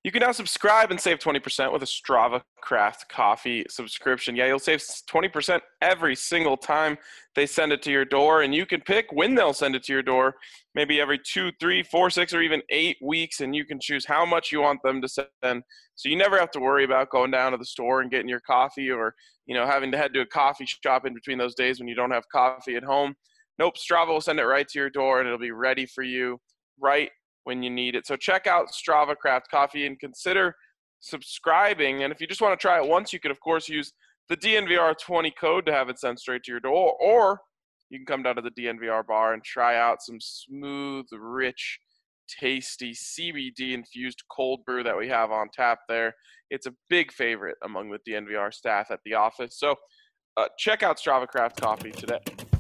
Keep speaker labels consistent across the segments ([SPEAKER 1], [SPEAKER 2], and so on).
[SPEAKER 1] You can now subscribe and save 20% with a Strava Craft Coffee subscription. Yeah, you'll save 20% every single time they send it to your door, and you can pick when they'll send it to your door, maybe every 2, 3, 4, 6, or even 8 weeks, and you can choose how much you want them to send. So you never have to worry about going down to the store and getting your coffee or, having to head to a coffee shop in between those days when you don't have coffee at home. Nope, Strava will send it right to your door, and it'll be ready for you right when you need it. So check out Strava Craft Coffee and consider subscribing. And if you just want to try it once, you could, of course, use the DNVR20 code to have it sent straight to your door. Or you can come down to the DNVR bar and try out some smooth, rich, tasty CBD-infused cold brew that we have on tap there. It's a big favorite among the DNVR staff at the office. So check out Strava Craft Coffee today.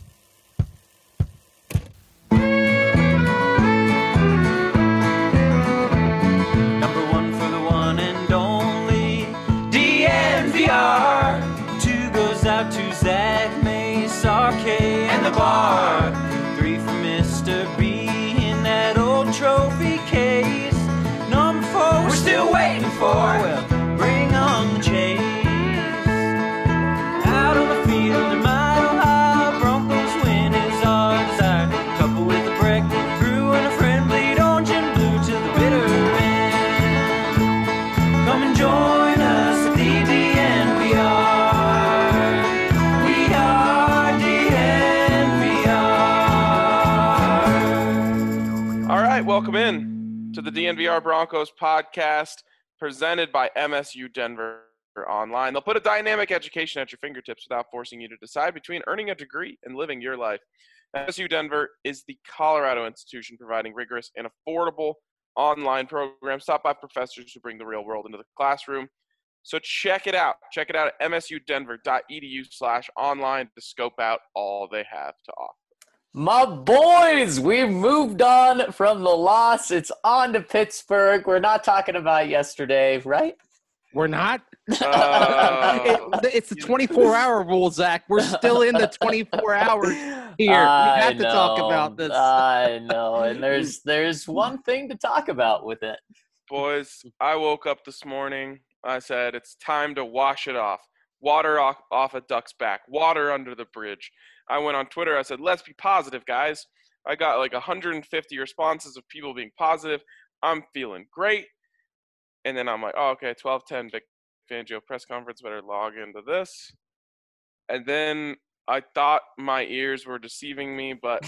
[SPEAKER 2] Two goes out to Zach, Mace, RK, and the bar. 3 for Mr. B in that old trophy case. Number 4 we're still waiting for. Well, bring on the chase. Out on the field in Mile High, Broncos win is our desire. Couple with a break, brew and a friend, bleed orange and blue to the bitter end. Come and join us at the DNVR.
[SPEAKER 1] Welcome in to the DNVR Broncos podcast presented by MSU Denver Online. They'll put a dynamic education at your fingertips without forcing you to decide between earning a degree and living your life. MSU Denver is the Colorado institution providing rigorous and affordable online programs taught by professors who bring the real world into the classroom. So check it out. Check it out at msudenver.edu/online to scope out all they have to offer.
[SPEAKER 3] My boys, we've moved on from the loss. It's on to Pittsburgh. We're not talking about yesterday, right?
[SPEAKER 4] We're not? It's the 24-hour rule, Zach. We're still in the 24 hours here. We have to talk about this.
[SPEAKER 3] I know, and there's one thing to talk about with it.
[SPEAKER 1] Boys, I woke up this morning. I said, it's time to wash it off. Water off a duck's back. Water under the bridge. I went on Twitter. I said, let's be positive, guys. I got like 150 responses of people being positive. I'm feeling great. And then I'm like, oh, okay, 12:10 Vic Fangio press conference. Better log into this. And then I thought my ears were deceiving me. But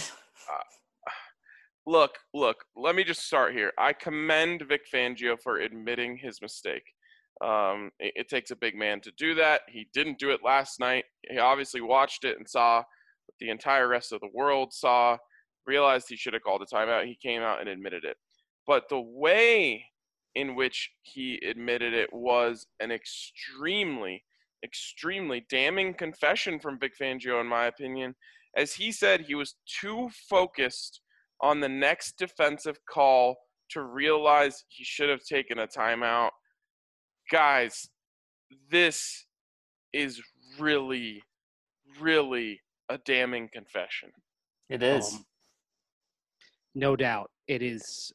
[SPEAKER 1] look, let me just start here. I commend Vic Fangio for admitting his mistake. It takes a big man to do that. He didn't do it last night. He obviously watched it and saw what the entire rest of the world saw, realized he should have called a timeout. He came out and admitted it. But the way in which he admitted it was an extremely, extremely damning confession from Vic Fangio, in my opinion, as he said he was too focused on the next defensive call to realize he should have taken a timeout. Guys, this is really, really a damning confession.
[SPEAKER 3] It is.
[SPEAKER 4] No doubt. It is.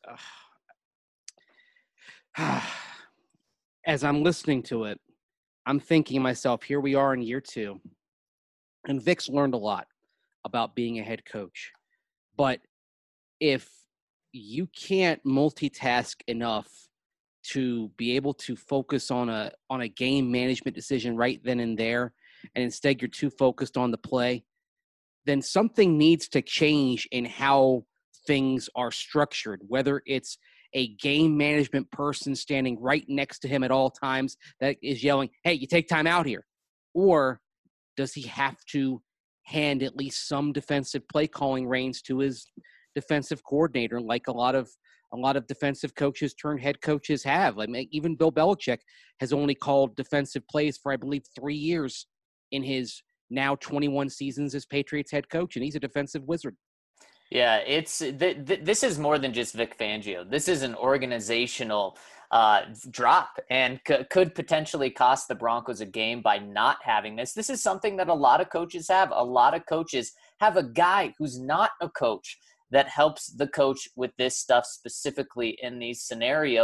[SPEAKER 4] As I'm listening to it, I'm thinking to myself, here we are in year 2. And Vic's learned a lot about being a head coach. But if you can't multitask enough to be able to focus on a game management decision right then and there, and instead you're too focused on the play, then something needs to change in how things are structured, whether it's a game management person standing right next to him at all times that is yelling, hey, you take time out here, or does he have to hand at least some defensive play calling reins to his defensive coordinator, like a lot of defensive coaches turned head coaches have. Like even Bill Belichick has only called defensive plays for, I believe, 3 years in his now 21 seasons as Patriots head coach, and he's a defensive wizard.
[SPEAKER 3] Yeah, it's this is more than just Vic Fangio. This is an organizational drop and could potentially cost the Broncos a game by not having this. This is something that a lot of coaches have. A lot of coaches have a guy who's not a coach that helps the coach with this stuff specifically in these scenarios.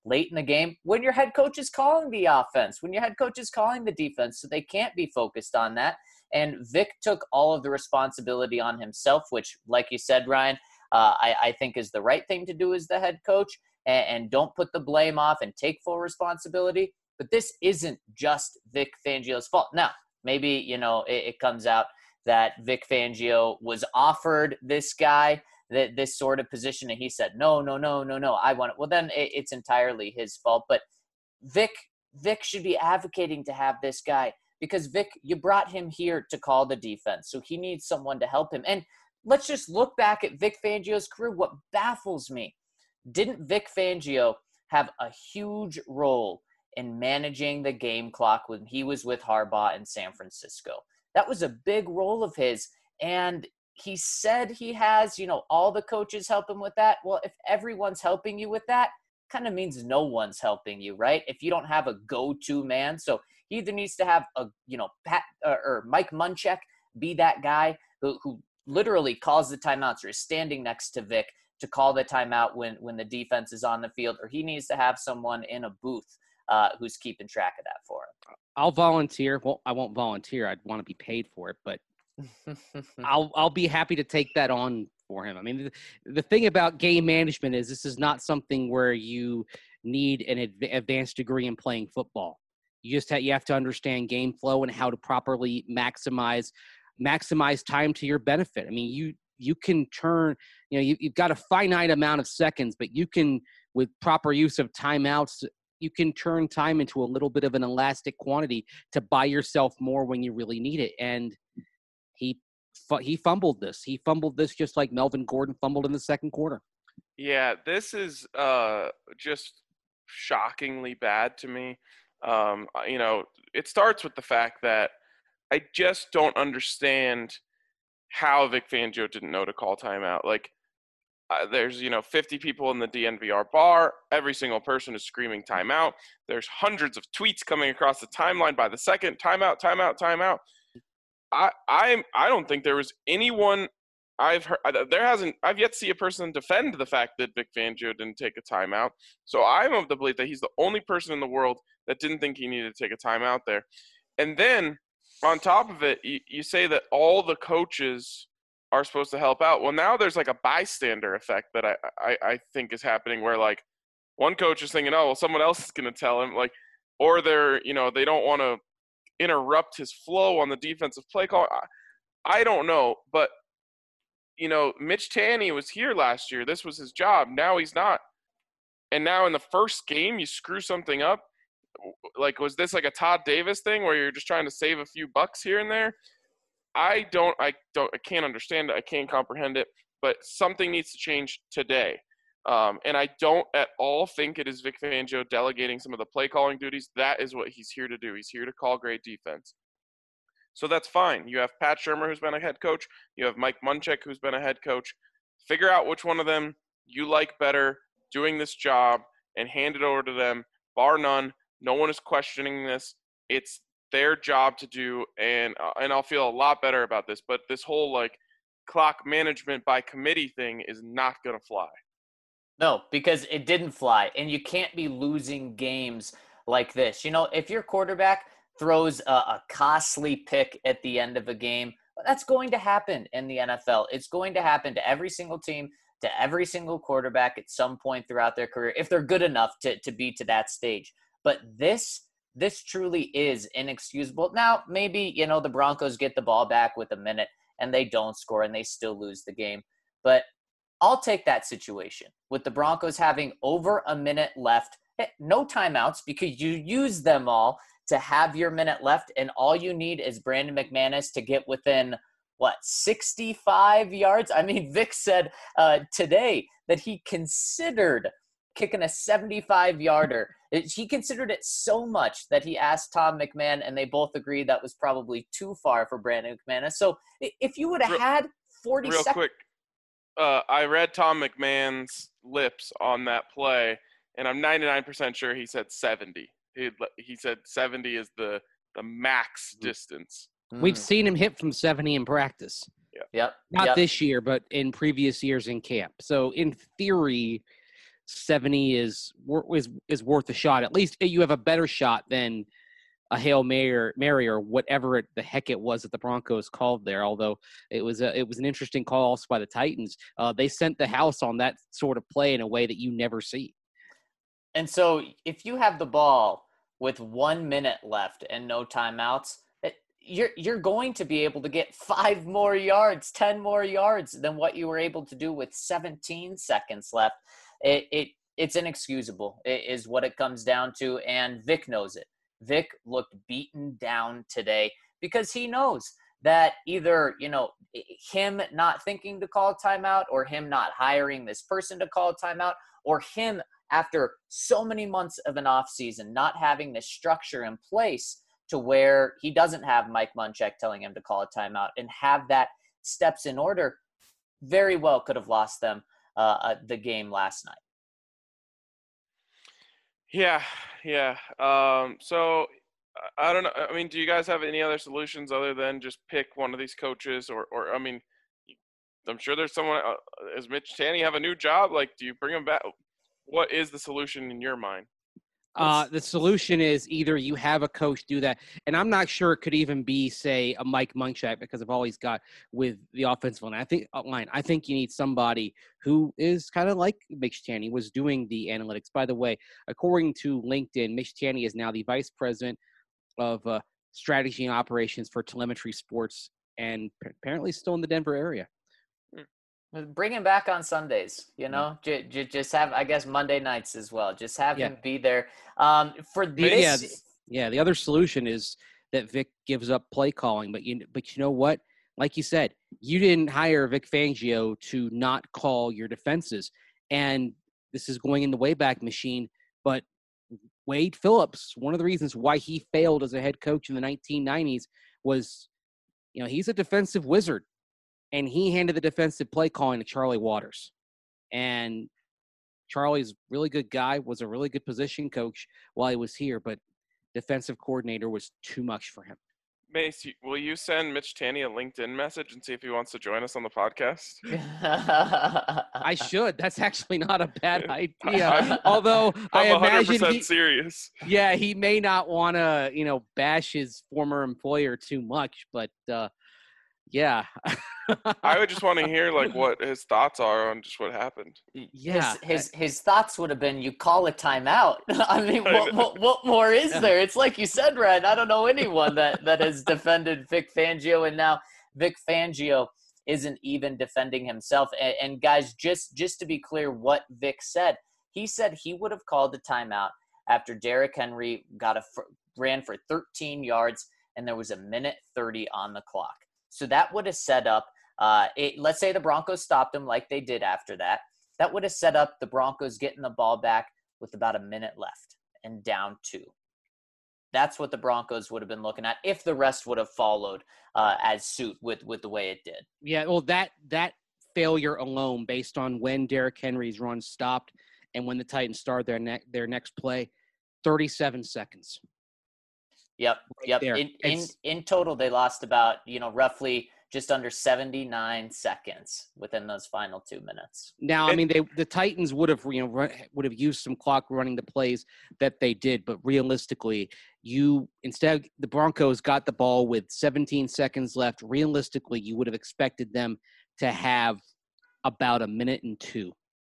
[SPEAKER 3] late in the game when your head coach is calling the offense, when your head coach is calling the defense, so they can't be focused on that. And Vic took all of the responsibility on himself, which, like you said, Ryan, I think is the right thing to do as the head coach, and don't put the blame off and take full responsibility. But this isn't just Vic Fangio's fault. Now, maybe, it comes out that Vic Fangio was offered this guy, this sort of position, and he said, no, I want it. Well, then it's entirely his fault. But Vic should be advocating to have this guy, because Vic, you brought him here to call the defense, so he needs someone to help him. And let's just look back at Vic Fangio's career. What baffles me, didn't Vic Fangio have a huge role in managing the game clock when he was with Harbaugh in San Francisco? That was a big role of his. And he said he has, all the coaches help him with that. Well, if everyone's helping you with that, kind of means no one's helping you, right? If you don't have a go-to man. So he either needs to have Pat or Mike Munchak be that guy who literally calls the timeouts or is standing next to Vic to call the timeout when the defense is on the field, or he needs to have someone in a booth who's keeping track of that for him.
[SPEAKER 4] I'll volunteer. Well, I won't volunteer. I'd want to be paid for it, but I'll be happy to take that on for him. I mean, the thing about game management is this is not something where you need an advanced degree in playing football. You have to understand game flow and how to properly maximize time to your benefit. I mean, you can turn, you've got a finite amount of seconds, but you can, with proper use of timeouts, you can turn time into a little bit of an elastic quantity to buy yourself more when you really need it. And he fumbled this. He fumbled this just like Melvin Gordon fumbled in the second quarter.
[SPEAKER 1] Yeah, this is just shockingly bad to me. It starts with the fact that I just don't understand how Vic Fangio didn't know to call timeout. Like, there's 50 people in the DNVR bar. Every single person is screaming timeout. There's hundreds of tweets coming across the timeline by the second. Timeout, timeout, timeout. I don't think there was anyone I've heard. I've yet to see a person defend the fact that Vic Fangio didn't take a timeout. So I'm of the belief that he's the only person in the world that didn't think he needed to take a timeout there. And then on top of it, you say that all the coaches are supposed to help out. Well, now there's like a bystander effect that I think is happening, where like one coach is thinking, oh, well, someone else is going to tell him, like, or they're, they don't want to interrupt his flow on the defensive play call. I don't know, but Mitch Tanny was here last year. This was his job. Now he's not. And now in the first game, you screw something up. Like, was this like a Todd Davis thing where you're just trying to save a few bucks here and there? I can't understand it. I can't comprehend it, but something needs to change today. And I don't at all think it is Vic Fangio delegating some of the play calling duties. That is what he's here to do. He's here to call great defense. So that's fine. You have Pat Shurmur, who's been a head coach. You have Mike Munchak, who's been a head coach. Figure out which one of them you like better doing this job and hand it over to them. Bar none. No one is questioning this. It's their job to do, and I'll feel a lot better about this. But this whole like clock management by committee thing is not going to fly.
[SPEAKER 3] No, because it didn't fly, and you can't be losing games like this. If your quarterback throws a costly pick at the end of a game, that's going to happen in the NFL. It's going to happen to every single team, to every single quarterback at some point throughout their career, if they're good enough to be to that stage. But this truly is inexcusable. Now, maybe, the Broncos get the ball back with a minute and they don't score and they still lose the game. But I'll take that situation with the Broncos having over a minute left, no timeouts, because you use them all to have your minute left, and all you need is Brandon McManus to get within, 65 yards? I mean, Vic said today that he considered kicking a 75-yarder. He considered it so much that he asked Tom McMahon, and they both agreed that was probably too far for Brandon McManus. So if you would have had 40 seconds. Real quick,
[SPEAKER 1] I read Tom McMahon's lips on that play, and I'm 99% sure he said 70. He said 70 is the max distance.
[SPEAKER 4] We've seen him hit from 70 in practice.
[SPEAKER 3] Yep.
[SPEAKER 4] Not this year, but in previous years in camp. So in theory, 70 is worth a shot. At least you have a better shot than a Hail Mary or whatever the heck it was that the Broncos called there. Although it was an interesting call also by the Titans. They sent the house on that sort of play in a way that you never see.
[SPEAKER 3] And so if you have the ball with 1 minute left and no timeouts, you're going to be able to get 5 more yards, 10 more yards than what you were able to do with 17 seconds left. It's inexcusable is what it comes down to, and Vic knows it. Vic looked beaten down today because he knows that either, him not thinking to call a timeout or him not hiring this person to call a timeout or him after so many months of an offseason not having this structure in place to where he doesn't have Mike Munchak telling him to call a timeout and have that steps in order, very well could have lost them the game last night.
[SPEAKER 1] Yeah. So I don't know. I mean, do you guys have any other solutions other than just pick one of these coaches or I mean, I'm sure there's someone, does Mitch Tanny have a new job? Like, do you bring him back? What is the solution in your mind?
[SPEAKER 4] The solution is either you have a coach do that, and I'm not sure it could even be, say, a Mike Munchak because of all he's got with the offensive line. I think you need somebody who is kind of like Mitch Tanny was doing the analytics. By the way, according to LinkedIn, Mitch Tanny is now the vice president of strategy and operations for Telemetry Sports, and apparently still in the Denver area.
[SPEAKER 3] Bring him back on Sundays, just have, I guess, Monday nights as well. Just have him be there. For this.
[SPEAKER 4] The other solution is that Vic gives up play calling, but you know what? Like you said, you didn't hire Vic Fangio to not call your defenses. And this is going in the Wayback Machine, but Wade Phillips, one of the reasons why he failed as a head coach in the 1990s was, he's a defensive wizard. And he handed the defensive play calling to Charlie Waters. And Charlie's a really good guy, was a really good position coach while he was here, but defensive coordinator was too much for him.
[SPEAKER 1] Mace, will you send Mitch Tanny a LinkedIn message and see if he wants to join us on the podcast?
[SPEAKER 4] I should. That's actually not a bad idea. Although I imagine
[SPEAKER 1] 100% serious.
[SPEAKER 4] Yeah, he may not want to, bash his former employer too much, but yeah.
[SPEAKER 1] I would just want to hear what his thoughts are on just what happened.
[SPEAKER 3] Yeah. His thoughts would have been, you call a timeout. I mean, what more is there? It's like you said, Ryan, I don't know anyone that has defended Vic Fangio, and now Vic Fangio isn't even defending himself. And guys, just to be clear what Vic said, he said he would have called the timeout after Derrick Henry ran for 13 yards and there was 1:30 on the clock. So that would have set up, let's say the Broncos stopped him like they did after that. That would have set up the Broncos getting the ball back with about a minute left and down 2. That's what the Broncos would have been looking at if the rest would have followed as suit with the way it did.
[SPEAKER 4] Yeah, well, that failure alone, based on when Derrick Henry's run stopped and when the Titans started their next play, 37 seconds.
[SPEAKER 3] Yep. In total, they lost about, roughly just under 79 seconds within those final 2 minutes.
[SPEAKER 4] Now, I mean, the Titans would have used some clock running the plays that they did, but realistically, instead the Broncos got the ball with 17 seconds left. Realistically, you would have expected them to have about 1:02.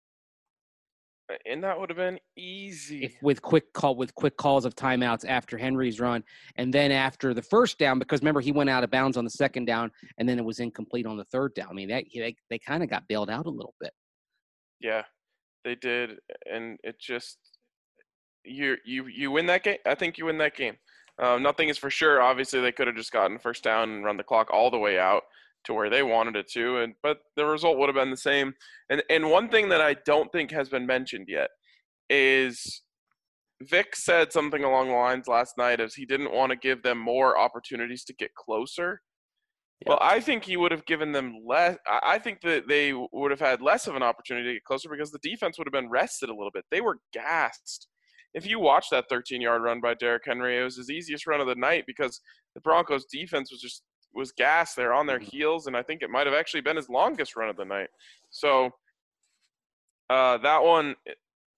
[SPEAKER 1] And that would have been easy.
[SPEAKER 4] With quick calls of timeouts after Henry's run, and then after the first down, because remember he went out of bounds on the second down, and then it was incomplete on the third down. I mean, they kind of got bailed out a little bit.
[SPEAKER 1] Yeah, they did, and it just you win that game. I think you win that game. Nothing is for sure. Obviously, they could have just gotten first down and run the clock all the way out to where they wanted it to, but the result would have been the same. And one thing that I don't think has been mentioned yet is Vic said something along the lines last night as he didn't want to give them more opportunities to get closer. Yeah. Well, I think he would have given them less. I think that they would have had less of an opportunity to get closer because the defense would have been rested a little bit. They were gassed. If you watch that 13-yard run by Derrick Henry, it was his easiest run of the night because the Broncos defense was gassed. They're on their heels, and I think it might have actually been his longest run of the night. So that one,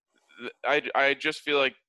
[SPEAKER 1] I just feel like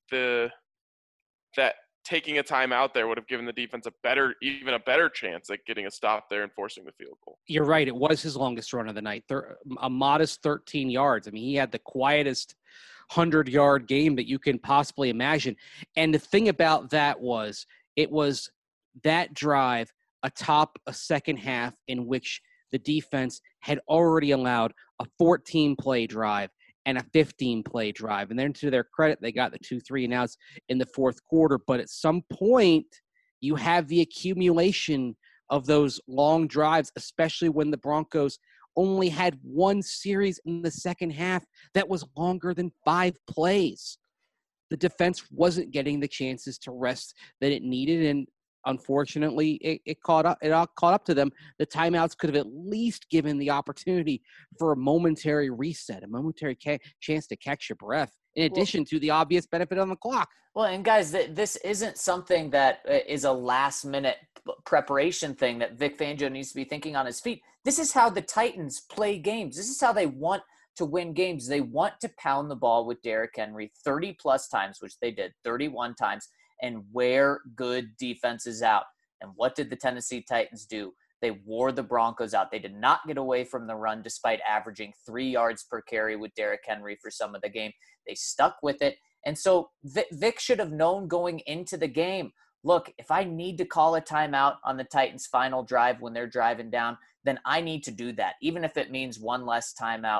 [SPEAKER 1] that taking a timeout there would have given the defense even a better chance at getting a stop there and forcing the field goal.
[SPEAKER 4] You're right. It was his longest run of the night, a modest 13 yards. I mean, he had the quietest 100-yard game that you can possibly imagine. And the thing about that was, it was that drive atop a second half in which the defense had already allowed a 14-play drive and a 15-play drive. And then, to their credit, they got the 2 3-and-outs in the fourth quarter. But at some point, you have the accumulation of those long drives, especially when the Broncos only had one series in the second half that was longer than 5 plays. The defense wasn't getting the chances to rest that it needed, and unfortunately, it caught up to them. The timeouts could have at least given the opportunity for a momentary reset, a momentary chance to catch your breath, in addition to the obvious benefit on the clock.
[SPEAKER 3] Well, and guys, this isn't something that is a last-minute preparation thing that Vic Fangio needs to be thinking on his feet. This is how the Titans play games. This is how they want to win games. They want to pound the ball with Derrick Henry 30-plus times, which they did 31 times, and wear good defenses out. And what did the Tennessee Titans do? They wore the Broncos out. They did not get away from the run despite averaging 3 yards per carry with Derrick Henry for some of the game. They stuck with it. And so Vic should have known going into the game, look, if I need to call a timeout on the Titans' final drive when they're driving down, then I need to do that, even if it means one less timeout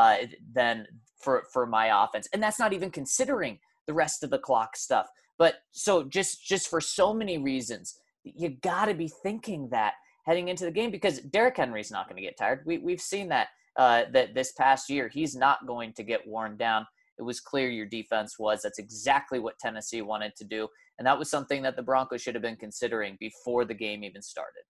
[SPEAKER 3] than for my offense. And that's not even considering the rest of the clock stuff. But so just for so many reasons, you got to be thinking that heading into the game, because Derrick Henry's not going to get tired. We've seen that this past year. He's not going to get worn down. It was clear your defense was. That's exactly what Tennessee wanted to do. And that was something that the Broncos should have been considering before the game even started.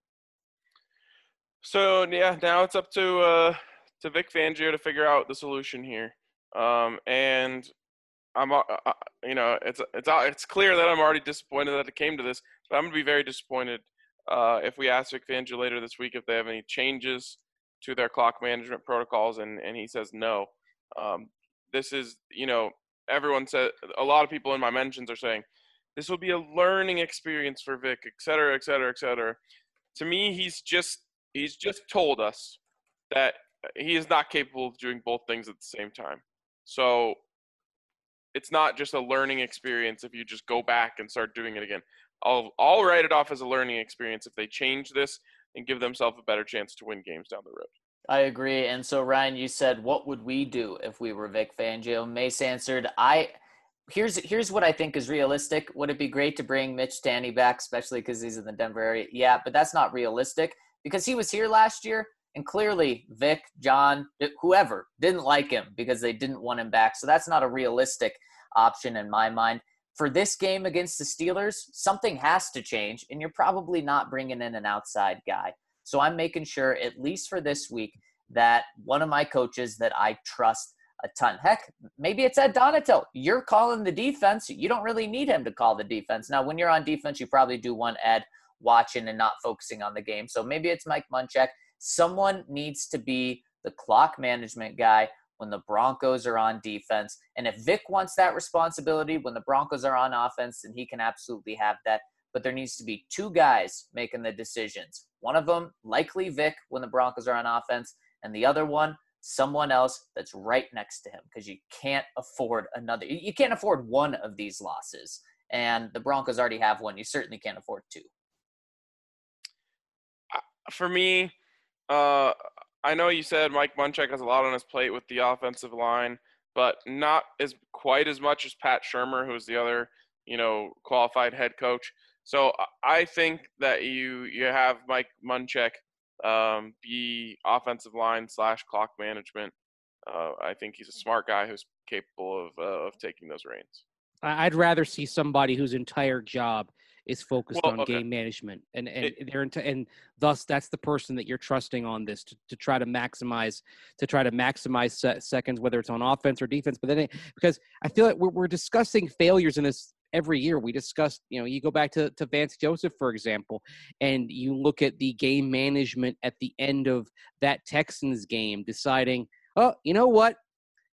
[SPEAKER 1] So, yeah, now it's up to Vic Fangio to figure out the solution here. And I'm, it's clear that I'm already disappointed that it came to this, but I'm going to be very disappointed if we ask Vic Fangio later this week if they have any changes to their clock management protocols, and he says no. This is, everyone said, a lot of people in my mentions are saying, this will be a learning experience for Vic, et cetera, et cetera, et cetera. To me, he's just told us that he is not capable of doing both things at the same time. So it's not just a learning experience if you just go back and start doing it again. I'll write it off as a learning experience if they change this and give themselves a better chance to win games down the road.
[SPEAKER 3] I agree. And so, Ryan, you said, what would we do if we were Vic Fangio? Mace answered, here's what I think is realistic. Would it be great to bring Mitch Tanny back, especially because he's in the Denver area? Yeah, but that's not realistic because he was here last year, and clearly Vic, John, whoever didn't like him because they didn't want him back. So that's not a realistic option in my mind. For this game against the Steelers, something has to change, and you're probably not bringing in an outside guy. So I'm making sure, at least for this week, that one of my coaches that I trust a ton. Heck, maybe it's Ed Donatel. You're calling the defense. You don't really need him to call the defense. Now, when you're on defense, you probably do want Ed watching and not focusing on the game. So maybe it's Mike Munchak. Someone needs to be the clock management guy when the Broncos are on defense. And if Vic wants that responsibility when the Broncos are on offense, then he can absolutely have that. But there needs to be two guys making the decisions. One of them, likely Vic, when the Broncos are on offense, and the other one, someone else that's right next to him, because you can't afford another. You can't afford one of these losses, and the Broncos already have one. You certainly can't afford two.
[SPEAKER 1] For me, I know you said Mike Munchak has a lot on his plate with the offensive line, but not quite as much as Pat Shurmur, who's the other, qualified head coach. So I think that you have Mike Munchak be offensive line / clock management. I think he's a smart guy who's capable of taking those reins.
[SPEAKER 4] I'd rather see somebody whose entire job is focused on game management, and thus that's the person that you're trusting on this to try to maximize seconds, whether it's on offense or defense. But then because I feel like we're discussing failures in this every year. We discussed, you go back to Vance Joseph, for example, and you look at the game management at the end of that Texans game, deciding, oh, you know what?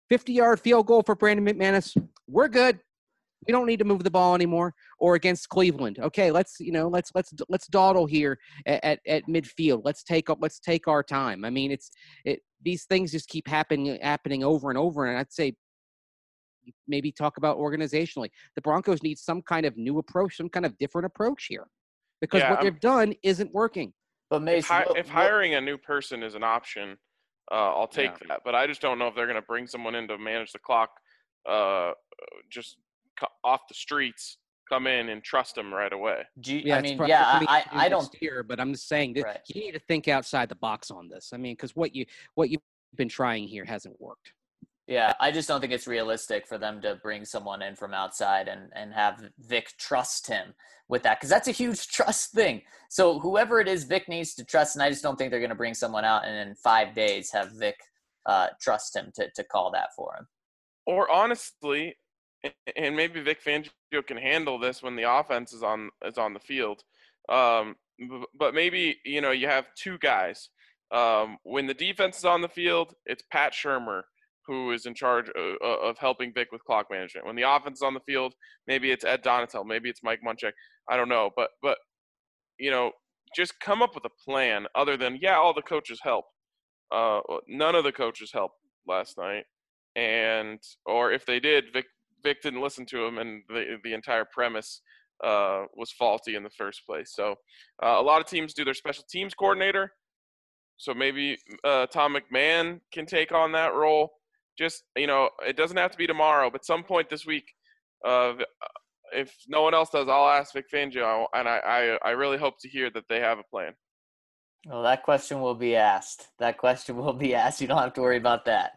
[SPEAKER 4] 50-yard field goal for Brandon McManus. We're good. We don't need to move the ball anymore. Or against Cleveland, okay, let's dawdle here at midfield. Let's take our time. I mean, these things just keep happening over and over. And I'd say maybe talk about organizationally. The Broncos need some kind of new approach, some kind of different approach here, because what they've done isn't working.
[SPEAKER 3] But Mace,
[SPEAKER 1] if hiring a new person is an option, I'll take that. But I just don't know if they're going to bring someone in to manage the clock, just off the streets, come in and trust them right away.
[SPEAKER 3] I don't
[SPEAKER 4] here, but I'm just saying that you need to think outside the box on this. I mean, because what you've been trying here hasn't worked.
[SPEAKER 3] Yeah, I just don't think it's realistic for them to bring someone in from outside and have Vic trust him with that, because that's a huge trust thing. So whoever it is, Vic needs to trust, and I just don't think they're going to bring someone out and in 5 days have Vic trust him to call that for him.
[SPEAKER 1] Or honestly, and maybe Vic Fangio can handle this when the offense is on the field, but maybe you have two guys. When the defense is on the field, it's Pat Shurmur who is in charge of helping Vic with clock management. When the offense is on the field, maybe it's Ed Donatel, maybe it's Mike Munchak. I don't know, but just come up with a plan other than all the coaches help. None of the coaches helped last night, or if they did, Vic didn't listen to him, and the entire premise was faulty in the first place. So a lot of teams do their special teams coordinator. So maybe Tom McMahon can take on that role. Just, it doesn't have to be tomorrow, but some point this week, if no one else does, I'll ask Vic Fangio, and I really hope to hear that they have a plan.
[SPEAKER 3] Well, that question will be asked. You don't have to worry about that.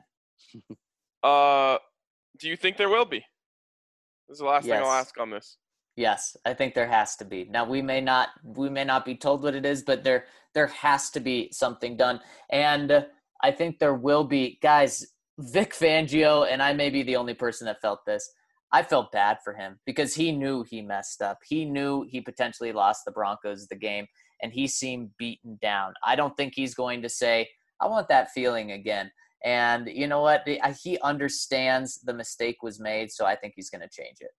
[SPEAKER 1] Do you think there will be? This is the last thing I'll ask on this.
[SPEAKER 3] Yes, I think there has to be. Now, we may not be told what it is, but there has to be something done. And I think there will be. Guys, Vic Fangio, and I may be the only person that felt this, I felt bad for him because he knew he messed up. He knew he potentially lost the Broncos the game, and he seemed beaten down. I don't think he's going to say, I want that feeling again. And you know what? He understands the mistake was made, so I think he's going to change it.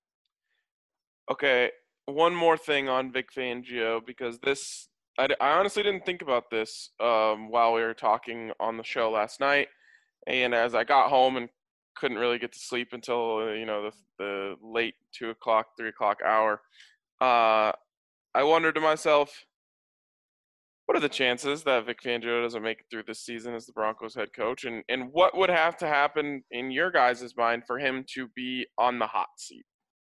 [SPEAKER 1] Okay, one more thing on Vic Fangio, because I honestly didn't think about this while we were talking on the show last night. And as I got home and couldn't really get to sleep until, the late 2 o'clock, 3 o'clock hour, I wondered to myself, what are the chances that Vic Fangio doesn't make it through this season as the Broncos head coach? And what would have to happen in your guys' mind for him to be on the hot seat?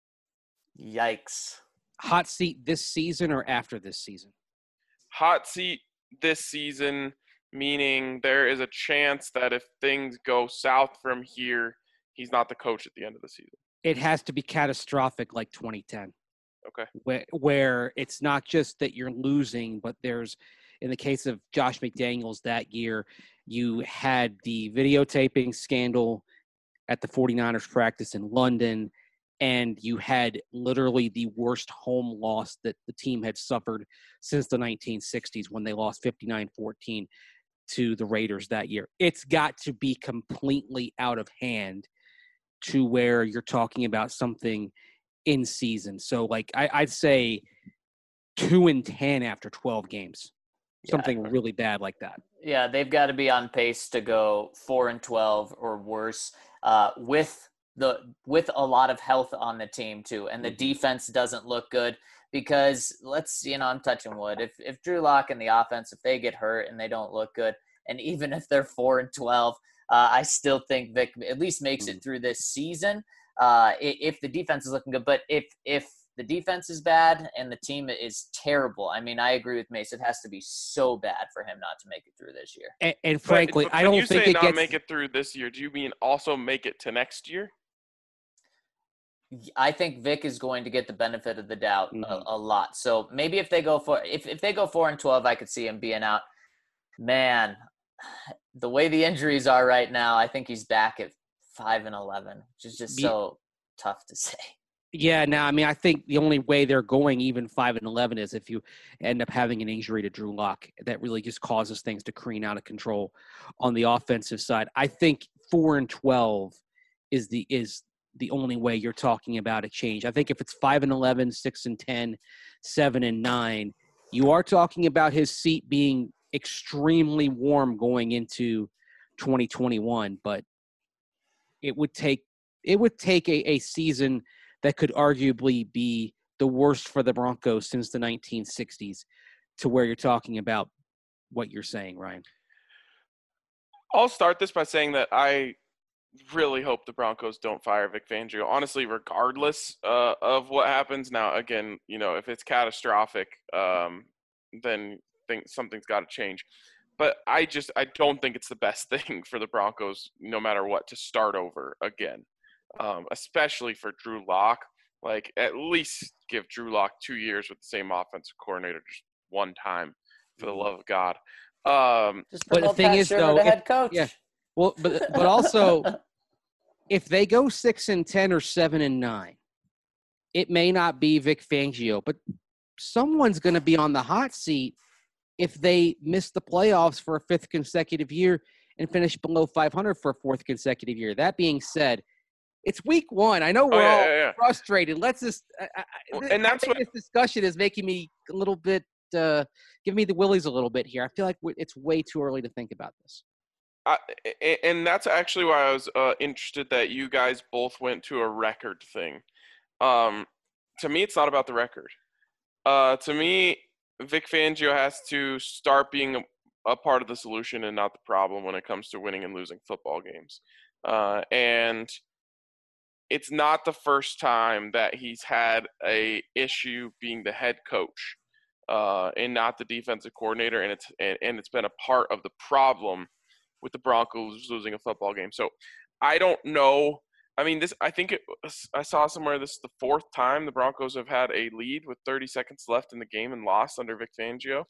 [SPEAKER 3] Yikes.
[SPEAKER 4] Hot seat this season or after this season?
[SPEAKER 1] Hot seat this season, meaning there is a chance that if things go south from here, he's not the coach at the end of the season.
[SPEAKER 4] It has to be catastrophic like 2010.
[SPEAKER 1] Okay.
[SPEAKER 4] Where it's not just that you're losing, but there's, in the case of Josh McDaniels that year, you had the videotaping scandal at the 49ers practice in London, and you had literally the worst home loss that the team had suffered since the 1960s when they lost 59-14 to the Raiders that year. It's got to be completely out of hand to where you're talking about something in season. So, I'd say 2-10 after 12 games. Something really bad like that.
[SPEAKER 3] Yeah, they've got to be on pace to go 4-12 or worse with a lot of health on the team too. And the defense doesn't look good because I'm touching wood. If Drew Lock and the offense, if they get hurt and they don't look good, and even if they're 4-12, I still think Vic at least makes it through this season. If the defense is looking good, but if the defense is bad and the team is terrible, I mean, I agree with Mace. It has to be so bad for him not to make it through this year.
[SPEAKER 4] And frankly, I don't think it gets
[SPEAKER 1] make it through this year. Do you mean also make it to next year?
[SPEAKER 3] I think Vic is going to get the benefit of the doubt a lot. So maybe if they go 4-12, I could see him being out. Man, the way the injuries are right now, I think he's back at 5-11, which is just so tough to say.
[SPEAKER 4] Yeah, no, I mean, I think the only way they're going even 5-11 is if you end up having an injury to Drew Lock that really just causes things to careen out of control on the offensive side. I think 4-12 is the only way you're talking about a change. I think if it's 5-11, 6-10, 7-9, you are talking about his seat being extremely warm going into 2021. But it would take a season that could arguably be the worst for the Broncos since the 1960s to where you're talking about what you're saying, Ryan.
[SPEAKER 1] I'll start this by saying that I really hope the Broncos don't fire Vic Fangio. Honestly, regardless of what happens. Now, again, if it's catastrophic, then something's got to change. But I don't think it's the best thing for the Broncos, no matter what, to start over again, especially for Drew Lock. Like, at least give Drew Lock 2 years with the same offensive coordinator just one time, for the love of God.
[SPEAKER 3] Just
[SPEAKER 4] But the
[SPEAKER 3] promote
[SPEAKER 4] thing
[SPEAKER 3] Pat
[SPEAKER 4] is,
[SPEAKER 3] Shermer
[SPEAKER 4] though,
[SPEAKER 3] to head coach.
[SPEAKER 4] yeah. Well, but also, if they go 6-10 or 7-9, it may not be Vic Fangio, but someone's going to be on the hot seat if they miss the playoffs for a fifth consecutive year and finish below 500 for a fourth consecutive year. That being said, it's week one. I know we're all frustrated. Let's just
[SPEAKER 1] and that's what
[SPEAKER 4] this discussion is making me a little bit give me the willies a little bit here. I feel like it's way too early to think about this.
[SPEAKER 1] And that's actually why I was interested that you guys both went to a record thing. To me, it's not about the record. To me, Vic Fangio has to start being a part of the solution and not the problem when it comes to winning and losing football games. And it's not the first time that he's had a issue being the head coach and not the defensive coordinator, and it's been a part of the problem with the Broncos losing a football game. So I don't know. I mean, I saw somewhere this is the fourth time the Broncos have had a lead with 30 seconds left in the game and lost under Vic Fangio.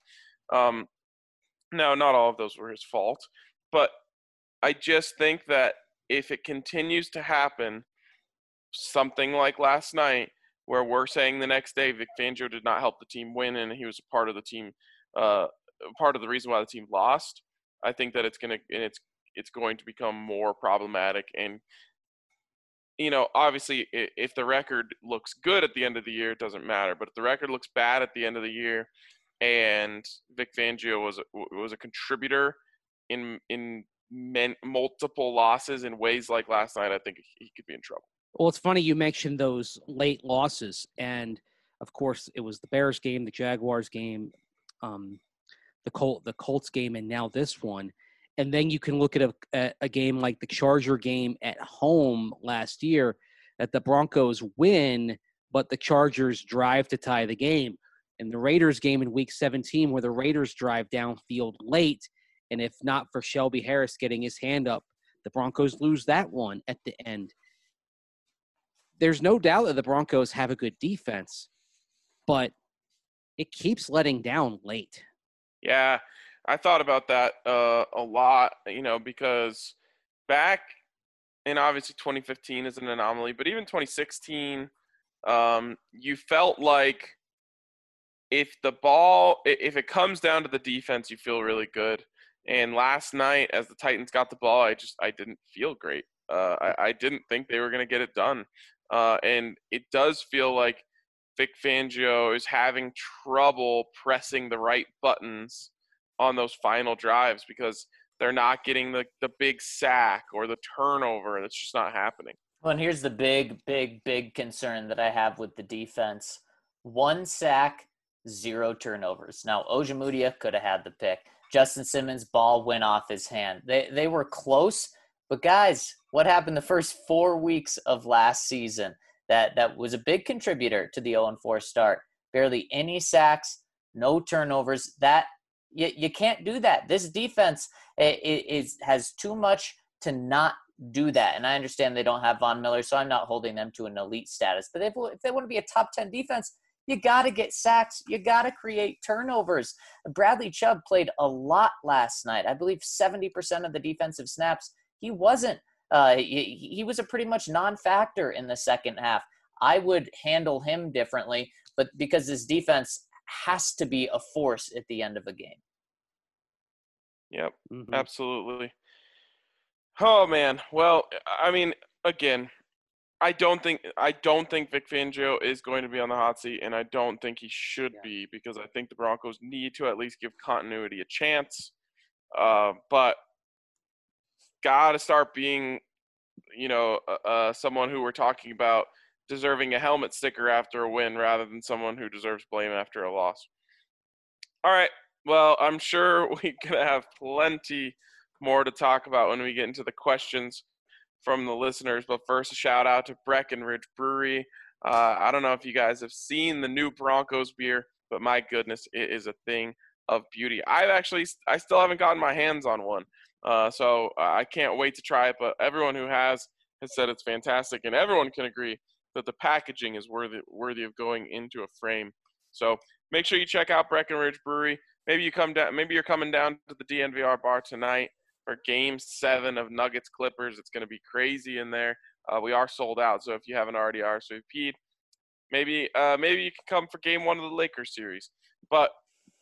[SPEAKER 1] Now, not all of those were his fault, but I just think that if it continues to happen, something like last night, where we're saying the next day Vic Fangio did not help the team win and he was a part of the team, part of the reason why the team lost, I think that it's going to become more problematic. And obviously, if the record looks good at the end of the year, it doesn't matter. But if the record looks bad at the end of the year, and Vic Fangio was a contributor in multiple losses in ways like last night, I think he could be in trouble.
[SPEAKER 4] Well, it's funny you mentioned those late losses, and of course, it was the Bears game, the Jaguars game, the Colts game, and now this one. And then you can look at a game like the Charger game at home last year that the Broncos win, but the Chargers drive to tie the game. And the Raiders game in Week 17 where the Raiders drive downfield late, and if not for Shelby Harris getting his hand up, the Broncos lose that one at the end. There's no doubt that the Broncos have a good defense, but it keeps letting down late.
[SPEAKER 1] Yeah, I thought about that a lot, because back in obviously 2015 is an anomaly, but even 2016, you felt like if it comes down to the defense, you feel really good. And last night, as the Titans got the ball, I didn't feel great. I didn't think they were going to get it done. And it does feel like Vic Fangio is having trouble pressing the right buttons on those final drives because they're not getting the big sack or the turnover, and it's just not happening.
[SPEAKER 3] Well, and here's the big concern that I have with the defense. 1 sack, 0 turnovers. Now, Ojemudia could have had the pick. Justin Simmons' ball went off his hand. They were close, but guys, what happened the first 4 weeks of last season? That was a big contributor to the 0-4 start. Barely any sacks, no turnovers. That you can't do that. This defense has too much to not do that. And I understand they don't have Von Miller, so I'm not holding them to an elite status. But if they want to be a top 10 defense, you got to get sacks. You got to create turnovers. Bradley Chubb played a lot last night. I believe 70% of the defensive snaps. He wasn't. He was a pretty much non-factor in the second half. I would handle him differently, but because this defense has to be a force at the end of a game.
[SPEAKER 1] Yep, Absolutely. Oh, man. Well, I mean, again, I don't think Vic Fangio is going to be on the hot seat, and I don't think he should be, because I think the Broncos need to at least give continuity a chance. But got to start being, someone who we're talking about deserving a helmet sticker after a win rather than someone who deserves blame after a loss. All right. Well, I'm sure we're going to have plenty more to talk about when we get into the questions from the listeners. But first, a shout out to Breckenridge Brewery. I don't know if you guys have seen the new Broncos beer, but my goodness, it is a thing of beauty. I still haven't gotten my hands on one. So I can't wait to try it. But everyone who has said it's fantastic, and everyone can agree that the packaging is worthy of going into a frame. So make sure you check out Breckenridge Brewery. Maybe you're coming down to the DNVR bar tonight for Game 7 of Nuggets Clippers. It's going to be crazy in there. We are sold out, so if you haven't already RSVP'd, maybe you can come for Game 1 of the Lakers series. But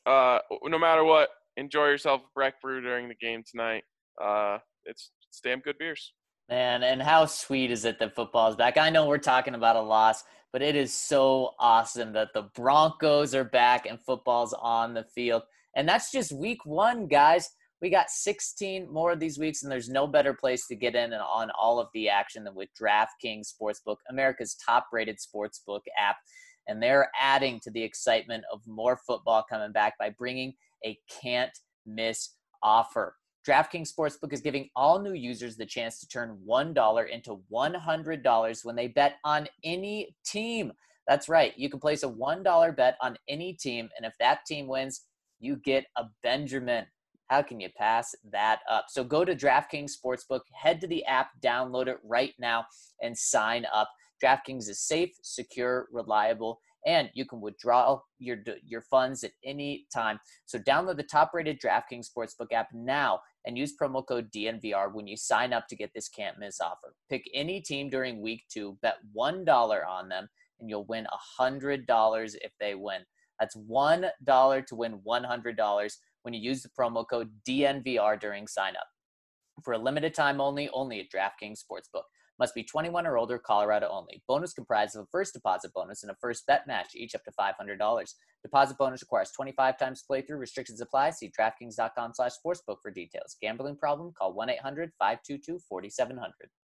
[SPEAKER 1] no matter what, enjoy yourself at Breck Brew during the game tonight. It's damn good beers.
[SPEAKER 3] Man, and how sweet is it that football is back? I know we're talking about a loss, but it is so awesome that the Broncos are back and football's on the field. And that's just week 1, guys. We got 16 more of these weeks, and there's no better place to get in on all of the action than with DraftKings Sportsbook, America's top-rated sportsbook app. And they're adding to the excitement of more football coming back by bringing a can't-miss offer. DraftKings Sportsbook is giving all new users the chance to turn $1 into $100 when they bet on any team. That's right. You can place a $1 bet on any team, and if that team wins, you get a Benjamin. How can you pass that up? So go to DraftKings Sportsbook, head to the app, download it right now, and sign up. DraftKings is safe, secure, reliable, and you can withdraw your funds at any time. So download the top-rated DraftKings Sportsbook app now and use promo code DNVR when you sign up to get this can't-miss offer. Pick any team during week 2, bet $1 on them, and you'll win $100 if they win. That's $1 to win $100 when you use the promo code DNVR during sign-up. For a limited time only at DraftKings Sportsbook. Must be 21 or older, Colorado only. Bonus comprised of a first deposit bonus and a first bet match, each up to $500. Deposit bonus requires 25 times playthrough. Restrictions apply. See DraftKings.com/sportsbook for details. Gambling problem? Call 1-800-522-4700.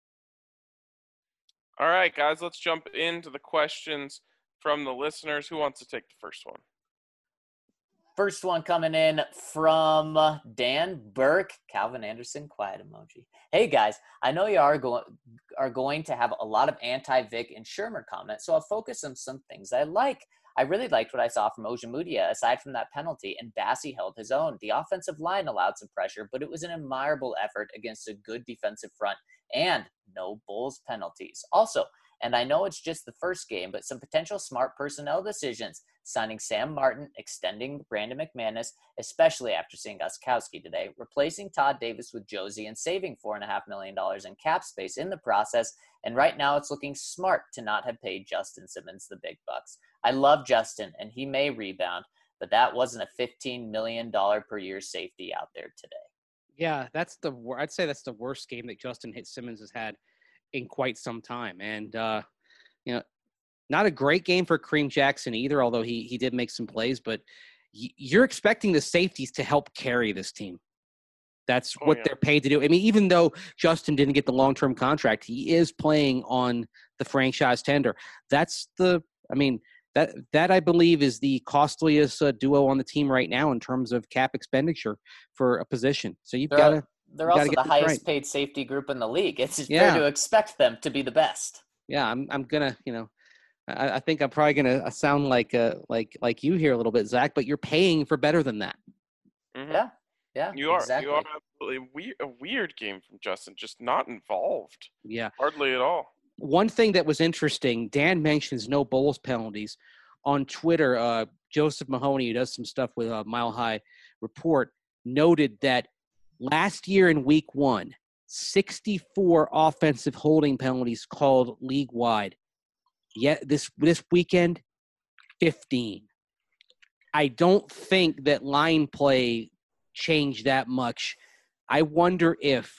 [SPEAKER 1] All right, guys, let's jump into the questions from the listeners. Who wants to take the first one?
[SPEAKER 3] First one coming in from Dan Burke, Calvin Anderson, quiet emoji. Hey guys, I know you are going to have a lot of anti-Vic and Shermer comments, so I'll focus on some things I like. I really liked what I saw from Ojemudia, aside from that penalty, and Bassey held his own. The offensive line allowed some pressure, but it was an admirable effort against a good defensive front, and no Bulls penalties. Also, and I know it's just the first game, but some potential smart personnel decisions. Signing Sam Martin, extending Brandon McManus, especially after seeing Gostkowski today, replacing Todd Davis with Josie, and saving $4.5 million in cap space in the process. And right now it's looking smart to not have paid Justin Simmons the big bucks. I love Justin, and he may rebound, but that wasn't a $15 million per year safety out there today.
[SPEAKER 4] Yeah, I'd say that's the worst game that Justin Simmons has had in quite some time. And, not a great game for Kareem Jackson either, although he did make some plays. But you're expecting the safeties to help carry this team. That's what they're paid to do. I mean, even though Justin didn't get the long-term contract, he is playing on the franchise tender. That I believe is the costliest duo on the team right now in terms of cap expenditure for a position. So
[SPEAKER 3] they're also the highest paid safety group in the league. It's fair to expect them to be the best. Yeah,
[SPEAKER 4] I'm gonna, I think I'm probably gonna sound like you here a little bit, Zach, but you're paying for better than that.
[SPEAKER 1] Mm-hmm.
[SPEAKER 3] Yeah,
[SPEAKER 1] you are.
[SPEAKER 3] Exactly.
[SPEAKER 1] You are absolutely a weird game from Justin, just not involved.
[SPEAKER 4] Yeah,
[SPEAKER 1] hardly at all.
[SPEAKER 4] One thing that was interesting, Dan mentions no Bulls penalties on Twitter. Joseph Mahoney, who does some stuff with Mile High Report, noted that last year in Week 1, 64 offensive holding penalties called league-wide. Yet this weekend, 15. I don't think that line play changed that much. I wonder if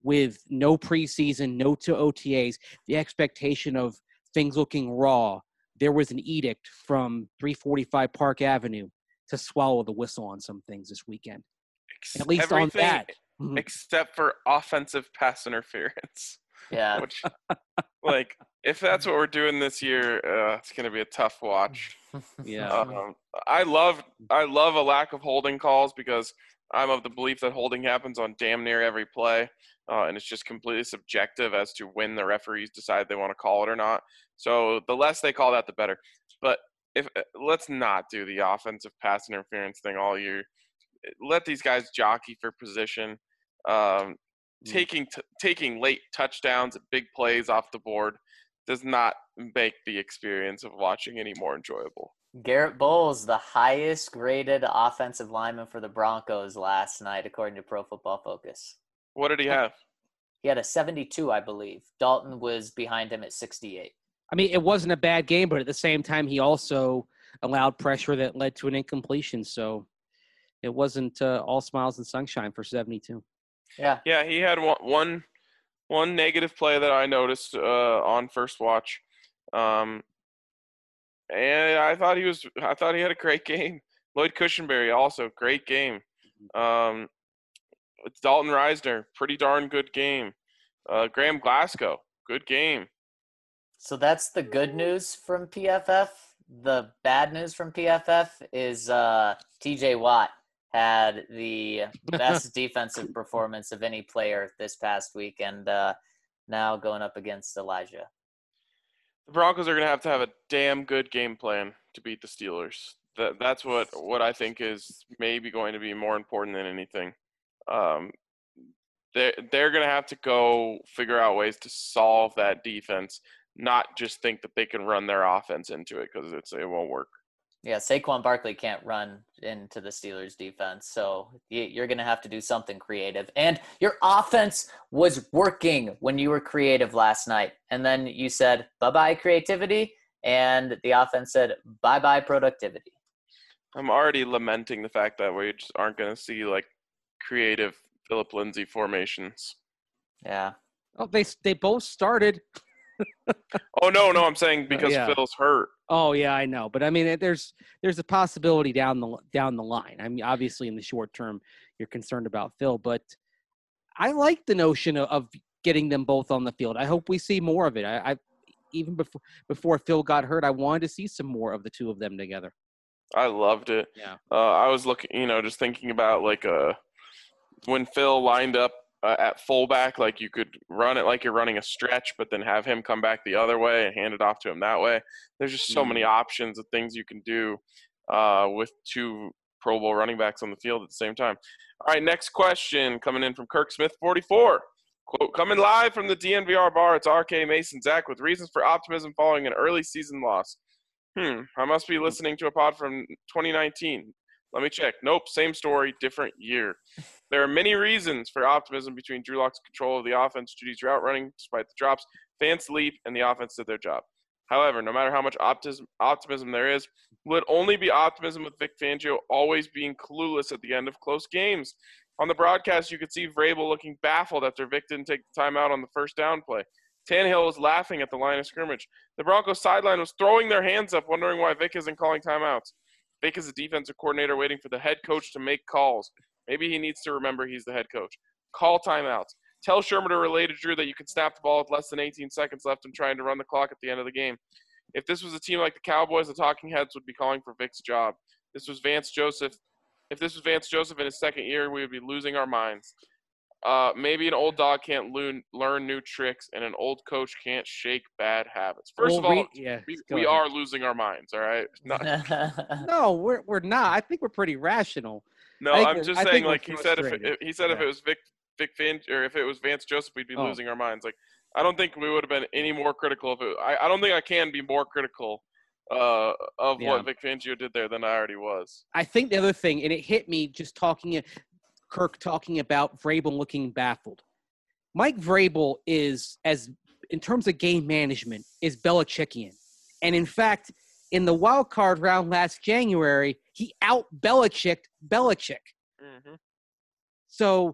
[SPEAKER 4] with no preseason, no to OTAs, the expectation of things looking raw. There was an edict from 345 Park Avenue to swallow the whistle on some things this weekend. At least on
[SPEAKER 1] Everything
[SPEAKER 4] that.
[SPEAKER 1] except for offensive pass interference.
[SPEAKER 3] Yeah.
[SPEAKER 1] Which, like, if that's what we're doing this year, it's going to be a tough watch.
[SPEAKER 4] Yeah.
[SPEAKER 1] I love a lack of holding calls because I'm of the belief that holding happens on damn near every play, and it's just completely subjective as to when the referees decide they want to call it or not. So the less they call that, the better. But let's not do the offensive pass interference thing all year. Let these guys jockey for position. Taking late touchdowns, big plays off the board does not make the experience of watching any more enjoyable.
[SPEAKER 3] Garrett Bowles, the highest graded offensive lineman for the Broncos last night, according to Pro Football Focus.
[SPEAKER 1] What did he have?
[SPEAKER 3] He had a 72, I believe. Dalton was behind him at 68.
[SPEAKER 4] I mean, it wasn't a bad game, but at the same time, he also allowed pressure that led to an incompletion. So it wasn't all smiles and sunshine for 72.
[SPEAKER 3] Yeah.
[SPEAKER 1] Yeah, he had one negative play that I noticed on first watch, and I thought he had a great game. Lloyd Cushenberry also great game. Dalton Reisner, pretty darn good game. Graham Glasgow, good game.
[SPEAKER 3] So that's the good news from PFF. The bad news from PFF is TJ Watt had the best defensive performance of any player this past week, and now going up against Elijah.
[SPEAKER 1] The Broncos are going to have a damn good game plan to beat the Steelers. That's what I think is maybe going to be more important than anything. They're going to have to go figure out ways to solve that defense, not just think that they can run their offense into it because it won't work.
[SPEAKER 3] Yeah, Saquon Barkley can't run into the Steelers defense, so you're going to have to do something creative. And your offense was working when you were creative last night. And then you said, bye-bye creativity, and the offense said, bye-bye productivity.
[SPEAKER 1] I'm already lamenting the fact that we just aren't going to see, like, creative Philip Lindsay formations.
[SPEAKER 3] Yeah.
[SPEAKER 4] Oh, they both started.
[SPEAKER 1] Oh, no, I'm saying because Phil's hurt.
[SPEAKER 4] Oh yeah, I know, but I mean, there's a possibility down the line. I mean, obviously in the short term, you're concerned about Phil, but I like the notion of getting them both on the field. I hope we see more of it. I even before Phil got hurt, I wanted to see some more of the two of them together.
[SPEAKER 1] I loved it.
[SPEAKER 4] Yeah.
[SPEAKER 1] I was looking, just thinking about like when Phil lined up at fullback, like you could run it like you're running a stretch, but then have him come back the other way and hand it off to him that way. There's just so many options of things you can do with two Pro Bowl running backs on the field at the same time. All right, next question coming in from Kirk Smith 44. Quote, coming live from the DNVR bar, it's RK Mason Zach with reasons for optimism following an early season loss. I must be listening to a pod from 2019. Let me check. Nope, same story, different year. There are many reasons for optimism between Drew Lock's control of the offense, Judy's route running, despite the drops, Fant's leap, and the offense did their job. However, no matter how much optimism there is, will it only be optimism with Vic Fangio always being clueless at the end of close games? On the broadcast, you could see Vrabel looking baffled after Vic didn't take the timeout on the first down play. Tannehill was laughing at the line of scrimmage. The Broncos sideline was throwing their hands up, wondering why Vic isn't calling timeouts. Vic is a defensive coordinator waiting for the head coach to make calls. Maybe he needs to remember he's the head coach. Call timeouts. Tell Sherman to relay to Drew that you can snap the ball with less than 18 seconds left and trying to run the clock at the end of the game. If this was a team like the Cowboys, the talking heads would be calling for Vic's job. If this was Vance Joseph in his second year, we would be losing our minds. Maybe an old dog can't learn new tricks, and an old coach can't shake bad habits. First of all, we are losing our minds, all right?
[SPEAKER 4] No, we're not. I think we're pretty rational.
[SPEAKER 1] No, I'm just saying, like he said, if it was Vic Fangio, or if it was Vance Joseph, we'd be losing our minds. Like, I don't think we would have been any more critical of it. I don't think I can be more critical of what Vic Fangio did there than I already was.
[SPEAKER 4] I think the other thing, and it hit me just Kirk talking about Vrabel looking baffled. Mike Vrabel is, in terms of game management, is Belichickian. And in fact, in the wild card round last January, he out-Belichicked Belichick.
[SPEAKER 1] Mm-hmm.
[SPEAKER 4] So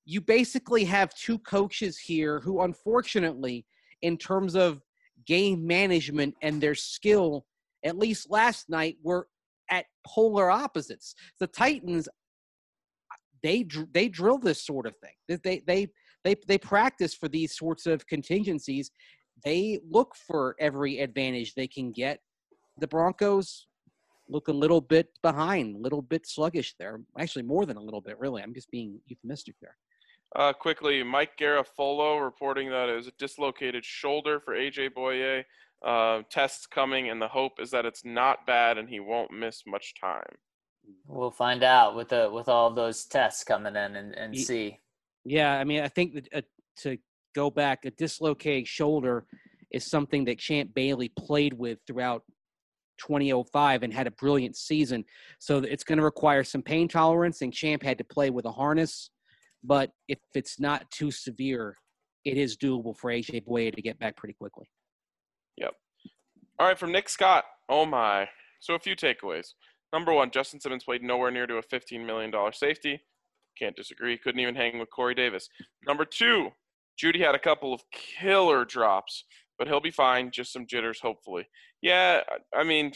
[SPEAKER 4] you basically have two coaches here who, unfortunately, in terms of game management and their skill, at least last night, were at polar opposites. The Titans, they drill this sort of thing. They practice for these sorts of contingencies. They look for every advantage they can get. The Broncos look a little bit behind, a little bit sluggish there. Actually, more than a little bit, really. I'm just being euphemistic there.
[SPEAKER 1] Quickly, Mike Garafolo reporting that it was a dislocated shoulder for AJ Boye. Tests coming, and the hope is that it's not bad and he won't miss much time.
[SPEAKER 3] We'll find out with all those tests coming in and see.
[SPEAKER 4] Yeah, I mean, I think that, to go back, a dislocated shoulder is something that Champ Bailey played with throughout 2005 and had a brilliant season. So it's going to require some pain tolerance, and Champ had to play with a harness. But if it's not too severe, it is doable for AJ Boye to get back pretty quickly.
[SPEAKER 1] Yep. All right, from Nick Scott. Oh, my. So a few takeaways. Number one, Justin Simmons played nowhere near to a $15 million safety. Can't disagree. Couldn't even hang with Corey Davis. Number two, Judy had a couple of killer drops, but he'll be fine. Just some jitters, hopefully. Yeah, I mean,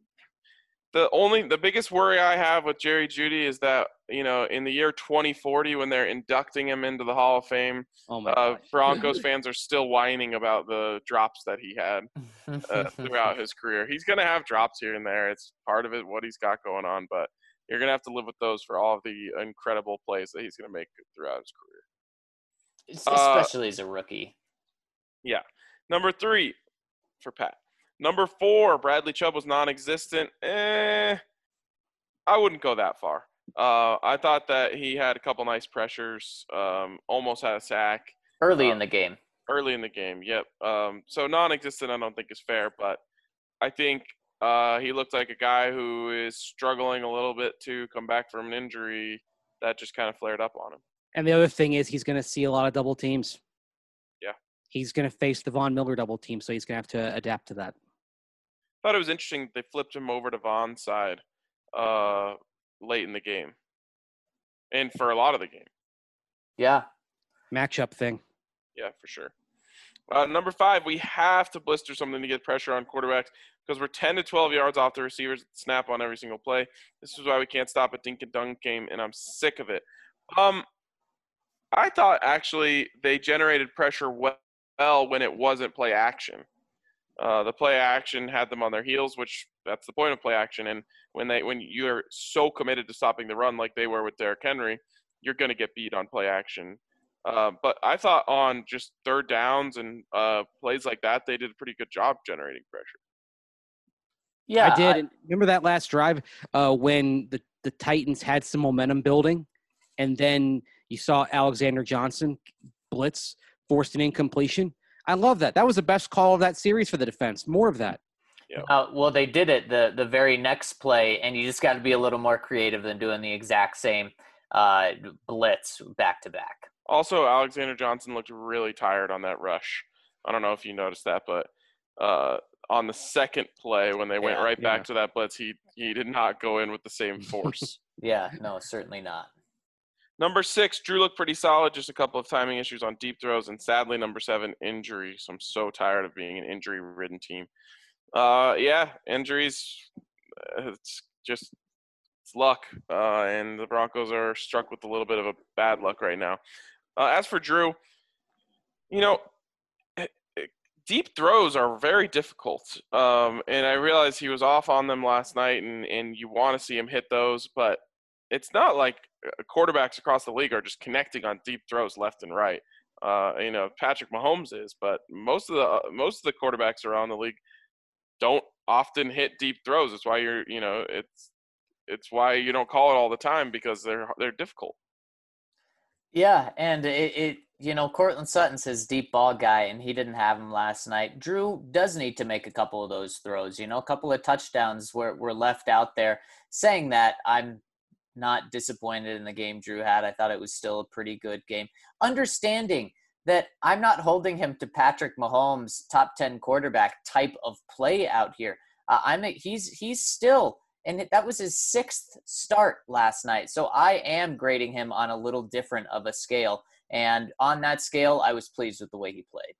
[SPEAKER 1] the biggest worry I have with Jerry Jeudy is that, you know, in the year 2040, when they're inducting him into the Hall of Fame, Broncos fans are still whining about the drops that he had throughout his career. He's going to have drops here and there. It's part of it, what he's got going on, but you're going to have to live with those for all of the incredible plays that he's going to make throughout his career.
[SPEAKER 3] Especially as a rookie.
[SPEAKER 1] Yeah. Number three for Pat. Number four, Bradley Chubb was non-existent. I wouldn't go that far. I thought that he had a couple nice pressures, almost had a sack.
[SPEAKER 3] Early in the game.
[SPEAKER 1] Early in the game, yep. So non-existent I don't think is fair, but I think he looked like a guy who is struggling a little bit to come back from an injury that just kind of flared up on him.
[SPEAKER 4] And the other thing is he's going to see a lot of double teams.
[SPEAKER 1] Yeah.
[SPEAKER 4] He's going to face the Von Miller double team, so he's going to have to adapt to that.
[SPEAKER 1] Thought it was interesting they flipped him over to Von's side late in the game and for a lot of the game.
[SPEAKER 3] Yeah.
[SPEAKER 4] Matchup thing.
[SPEAKER 1] Yeah, for sure. Number five, we have to blister something to get pressure on quarterbacks because we're 10 to 12 yards off the receivers snap on every single play. This is why we can't stop a dink and dunk game, and I'm sick of it. I thought actually they generated pressure well when it wasn't play action. The play action had them on their heels, which that's the point of play action. And when you're so committed to stopping the run like they were with Derrick Henry, you're going to get beat on play action. But I thought on just third downs and plays like that, they did a pretty good job generating pressure.
[SPEAKER 4] Yeah, I did. And remember that last drive when the Titans had some momentum building, and then you saw Alexander Johnson blitz, forced an incompletion. I love that. That was the best call of that series for the defense. More of that.
[SPEAKER 1] Yeah.
[SPEAKER 3] Well, they did it the very next play, and you just got to be a little more creative than doing the exact same blitz back to back.
[SPEAKER 1] Also, Alexander Johnson looked really tired on that rush. I don't know if you noticed that, but on the second play when they went right back to that blitz, he did not go in with the same force.
[SPEAKER 3] Yeah, no, certainly not.
[SPEAKER 1] Number 6, Drew looked pretty solid, just a couple of timing issues on deep throws, and sadly, number 7, injury. So I'm so tired of being an injury-ridden team. Injuries, it's luck, and the Broncos are struck with a little bit of a bad luck right now. As for Drew, deep throws are very difficult, and I realized he was off on them last night, and you want to see him hit those, but it's not like quarterbacks across the league are just connecting on deep throws left and right. Patrick Mahomes is, but most of the quarterbacks around the league don't often hit deep throws. It's why it's why you don't call it all the time, because they're difficult.
[SPEAKER 3] Yeah, and Cortland Sutton's his deep ball guy, and he didn't have him last night. Drew does need to make a couple of those throws. A couple of touchdowns were left out there. Saying that, I'm not disappointed in the game Drew had. I thought it was still a pretty good game. Understanding that I'm not holding him to Patrick Mahomes' top 10 quarterback type of play out here. He's still And that was his 6th start last night. So I am grading him on a little different of a scale. And on that scale, I was pleased with the way he played.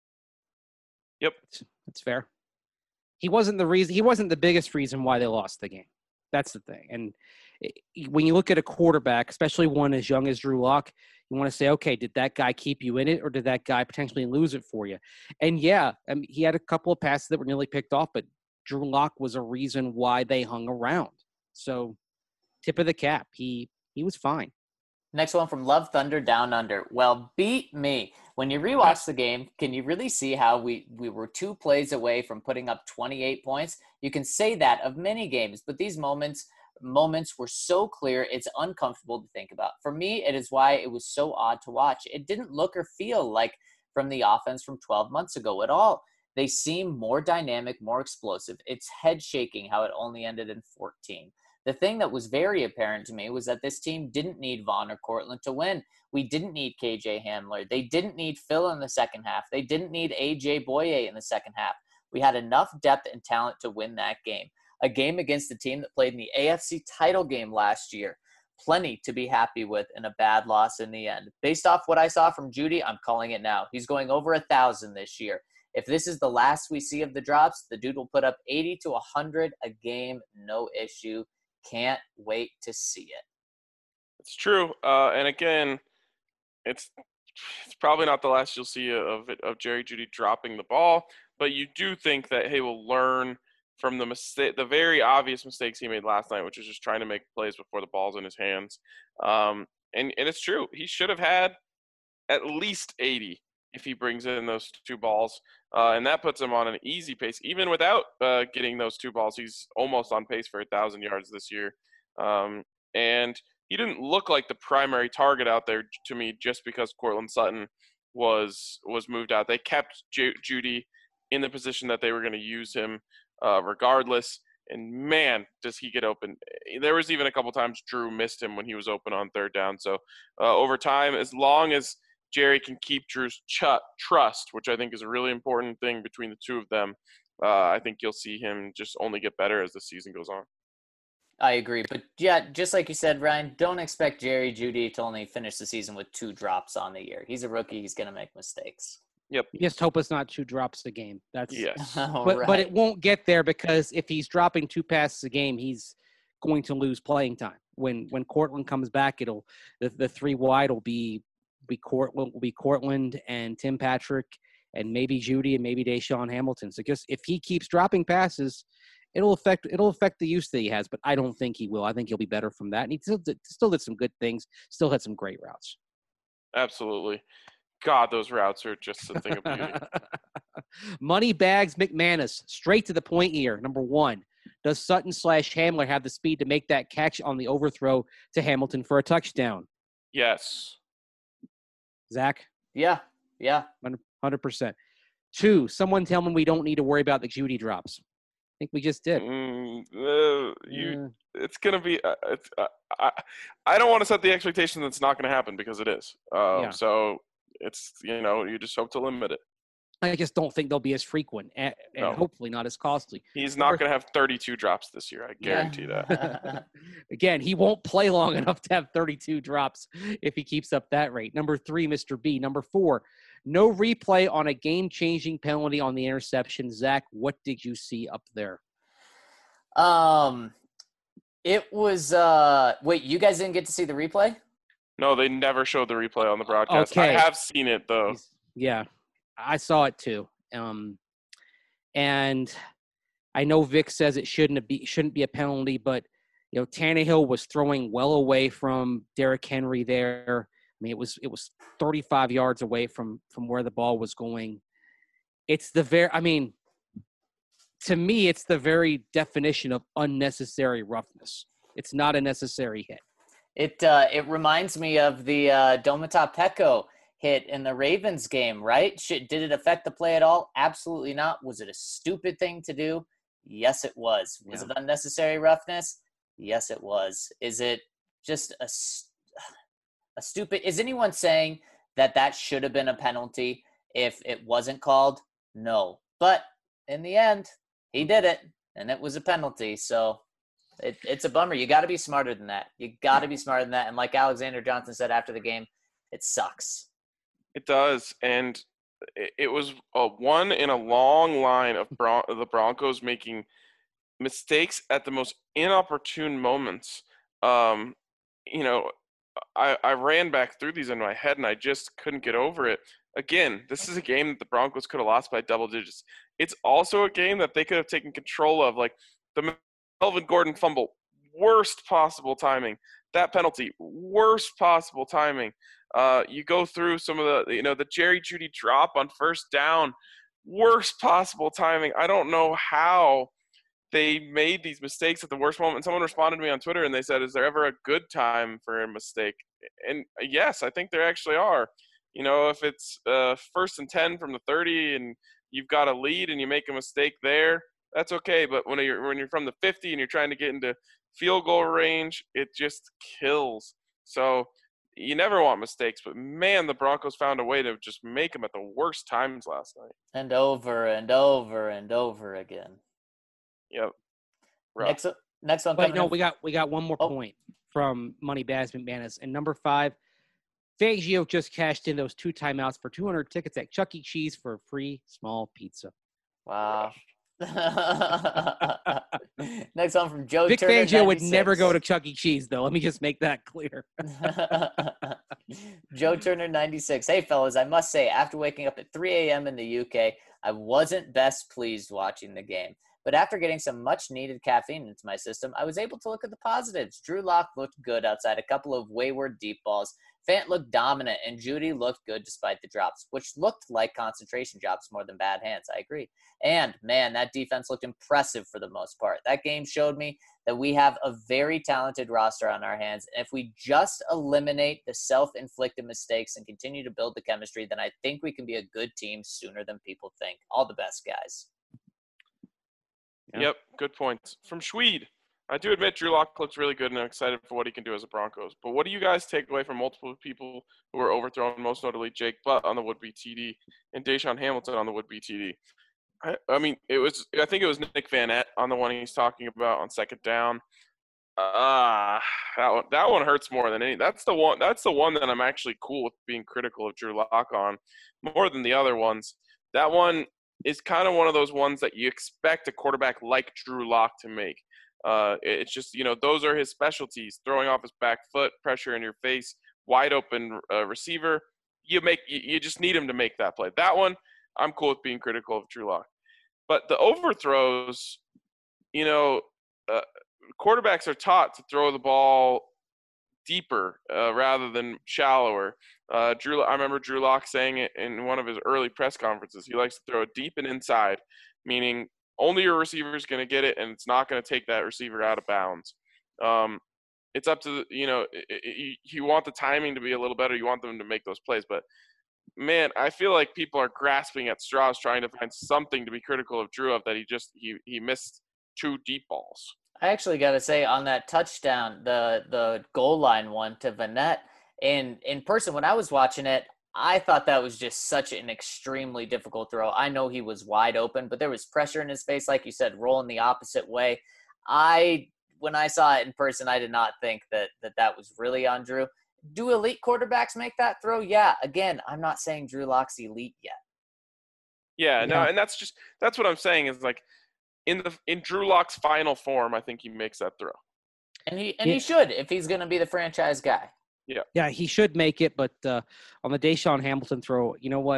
[SPEAKER 1] Yep.
[SPEAKER 4] That's fair. He wasn't the biggest reason why they lost the game. That's the thing. And when you look at a quarterback, especially one as young as Drew Lock, you want to say, okay, did that guy keep you in it, or did that guy potentially lose it for you? And yeah, I mean, he had a couple of passes that were nearly picked off, but Drew Lock was a reason why they hung around. So, tip of the cap, he was fine.
[SPEAKER 3] Next one from Love Thunder Down Under. Well, beat me. When you rewatch the game, can you really see how we were 2 plays away from putting up 28 points? You can say that of many games, but these moments were so clear, it's uncomfortable to think about. For me, it is why it was so odd to watch. It didn't look or feel like from the offense from 12 months ago at all. They seem more dynamic, more explosive. It's head-shaking how it only ended in 14. The thing that was very apparent to me was that this team didn't need Vaughn or Cortland to win. We didn't need KJ Hamler. They didn't need Phil in the second half. They didn't need AJ Boye in the second half. We had enough depth and talent to win that game. A game against a team that played in the AFC title game last year. Plenty to be happy with in a bad loss in the end. Based off what I saw from Jeudy, I'm calling it now. He's going over 1,000 this year. If this is the last we see of the drops, the dude will put up 80 to 100 a game, no issue. Can't wait to see it.
[SPEAKER 1] It's true. And again, it's probably not the last you'll see of Jerry Jeudy dropping the ball, but you do think that he will learn from the very obvious mistakes he made last night, which is just trying to make plays before the ball's in his hands. And it's true. He should have had at least 80 if he brings in those 2 balls. And that puts him on an easy pace. Even without getting those 2 balls, he's almost on pace for 1,000 yards this year. And he didn't look like the primary target out there to me just because Cortland Sutton was moved out. They kept Jeudy in the position that they were going to use him regardless. And, man, does he get open. There was even a couple times Drew missed him when he was open on 3rd down. So, over time, as long as Jerry can keep Drew's trust, which I think is a really important thing between the 2 of them, I think you'll see him just only get better as the season goes on.
[SPEAKER 3] I agree. But, yeah, just like you said, Ryan, don't expect Jerry Jeudy to only finish the season with 2 drops on the year. He's a rookie. He's going to make mistakes.
[SPEAKER 1] Yep.
[SPEAKER 4] Just hope it's not 2 drops a game. That's
[SPEAKER 1] yes.
[SPEAKER 4] But it won't get there because if he's dropping 2 passes a game, he's going to lose playing time. When Cortland comes back, the 3 wide will be Cortland and Tim Patrick and maybe Jeudy and maybe Deshaun Hamilton. So just if he keeps dropping passes, it'll affect the use that he has. But I don't think he will. I think he'll be better from that. And he still did some good things. Still had some great routes.
[SPEAKER 1] Absolutely. God, those routes are just a thing of beauty.
[SPEAKER 4] Money bags McManus, straight to the point here. Number 1, does Sutton/Hamler have the speed to make that catch on the overthrow to Hamilton for a touchdown?
[SPEAKER 1] Yes.
[SPEAKER 4] Zach?
[SPEAKER 3] Yeah.
[SPEAKER 4] 100%. 2, someone tell me we don't need to worry about the Jeudy drops. I think we just did.
[SPEAKER 1] It's going to be I don't want to set the expectation that it's not going to happen because it is. So it's, you just hope to limit it.
[SPEAKER 4] I just don't think they'll be as frequent and hopefully not as costly.
[SPEAKER 1] He's not going to have 32 drops this year. I guarantee that.
[SPEAKER 4] Again, he won't play long enough to have 32 drops if he keeps up that rate. Number 3, Mr. B. Number 4, no replay on a game-changing penalty on the interception. Zach, what did you see up there?
[SPEAKER 3] It was wait, you guys didn't get to see the replay?
[SPEAKER 1] No, they never showed the replay on the broadcast.
[SPEAKER 4] Okay.
[SPEAKER 1] I have seen it though.
[SPEAKER 4] Yeah, I saw it too. And I know Vic says it shouldn't be a penalty, but Tannehill was throwing well away from Derrick Henry there. I mean, it was 35 yards away from where the ball was going. To me, it's the very definition of unnecessary roughness. It's not a necessary hit.
[SPEAKER 3] It reminds me of the Domata Peko hit in the Ravens game, right? Did it affect the play at all? Absolutely not. Was it a stupid thing to do? Yes, it was. Was it unnecessary roughness? Yes, it was. Is it just a stupid? Is anyone saying that should have been a penalty if it wasn't called? No. But in the end, he did it, and it was a penalty. So It's a bummer. You got to be smarter than that. You got to be smarter than that. And like Alexander Johnson said after the game, it sucks.
[SPEAKER 1] It does, and it was one in a long line of the Broncos making mistakes at the most inopportune moments. You know, I ran back through these in my head, and I just couldn't get over it. Again, this is a game that the Broncos could have lost by double digits. It's also a game that they could have taken control of, like the Melvin Gordon fumble, worst possible timing. That penalty, worst possible timing. You go through some of the Jerry Jeudy drop on first down, worst possible timing. I don't know how they made these mistakes at the worst moment. Someone responded to me on Twitter and they said, is there ever a good time for a mistake? And yes, I think there actually are. You know, if it's 1st and 10 from the 30 and you've got a lead and you make a mistake there, that's okay. But when you're from the 50 and you're trying to get into field goal range, it just kills. So you never want mistakes, but man, the Broncos found a way to just make them at the worst times last night.
[SPEAKER 3] And over and over and over again.
[SPEAKER 1] Yep. Rough.
[SPEAKER 3] Next one.
[SPEAKER 4] Wait, no, we got one more point from Money Baz McManus. And number 5, Fangio just cashed in those 2 timeouts for 200 tickets at Chuck E. Cheese for a free small pizza.
[SPEAKER 3] Wow. Next one from Joe
[SPEAKER 4] Vic
[SPEAKER 3] Turner.
[SPEAKER 4] Fangio would
[SPEAKER 3] 96.
[SPEAKER 4] never go to Chuck E. Cheese, though. Let me just make that clear.
[SPEAKER 3] Joe Turner 96. Hey, fellas, I must say, after waking up at 3 a.m. in the UK, I wasn't best pleased watching the game. But after getting some much-needed caffeine into my system, I was able to look at the positives. Drew Lock looked good outside a couple of wayward deep balls. Fant looked dominant, and Jeudy looked good despite the drops, which looked like concentration drops more than bad hands. I agree. And, man, that defense looked impressive for the most part. That game showed me that we have a very talented roster on our hands. And if we just eliminate the self-inflicted mistakes and continue to build the chemistry, then I think we can be a good team sooner than people think. All the best, guys.
[SPEAKER 4] Yeah.
[SPEAKER 1] Yep, good points. From Schweed, I do admit Drew Lock looks really good and I'm excited for what he can do as a Broncos. But what do you guys take away from multiple people who were overthrown, most notably Jake Butt on the would-be TD and Deshaun Hamilton on the would-be TD? I mean, I think it was Nick Vanette on the one he's talking about on second down. That one hurts more than any. That's the one that I'm actually cool with being critical of Drew Lock on more than the other ones. That one is kind of one of those ones that you expect a quarterback like Drew Lock to make. It's just, those are his specialties: throwing off his back foot, pressure in your face, wide open receiver. You just need him to make that play. That one, I'm cool with being critical of Drew Lock. But the overthrows, quarterbacks are taught to throw the ball deeper rather than shallower. I remember Drew Lock saying it in one of his early press conferences. He likes to throw it deep and inside, meaning only your receiver is going to get it, and it's not going to take that receiver out of bounds. It's up to you want the timing to be a little better. You want them to make those plays, but man, I feel like people are grasping at straws trying to find something to be critical of Drew of that he missed 2 deep balls.
[SPEAKER 3] I actually got to say, on that touchdown, the goal line one to Vanette, in person, when I was watching it, I thought that was just such an extremely difficult throw. I know he was wide open, but there was pressure in his face, like you said, rolling the opposite way. When I saw it in person, I did not think that was really on Drew. Do elite quarterbacks make that throw? Yeah. Again, I'm not saying Drew Lock's elite yet.
[SPEAKER 1] Yeah, no, and that's what I'm saying is, like, in Drew Lock's final form, I think he makes that throw.
[SPEAKER 3] And he should, if he's going to be the franchise guy.
[SPEAKER 4] Yeah, he should make it, but on the Deshaun Hamilton throw, you know what?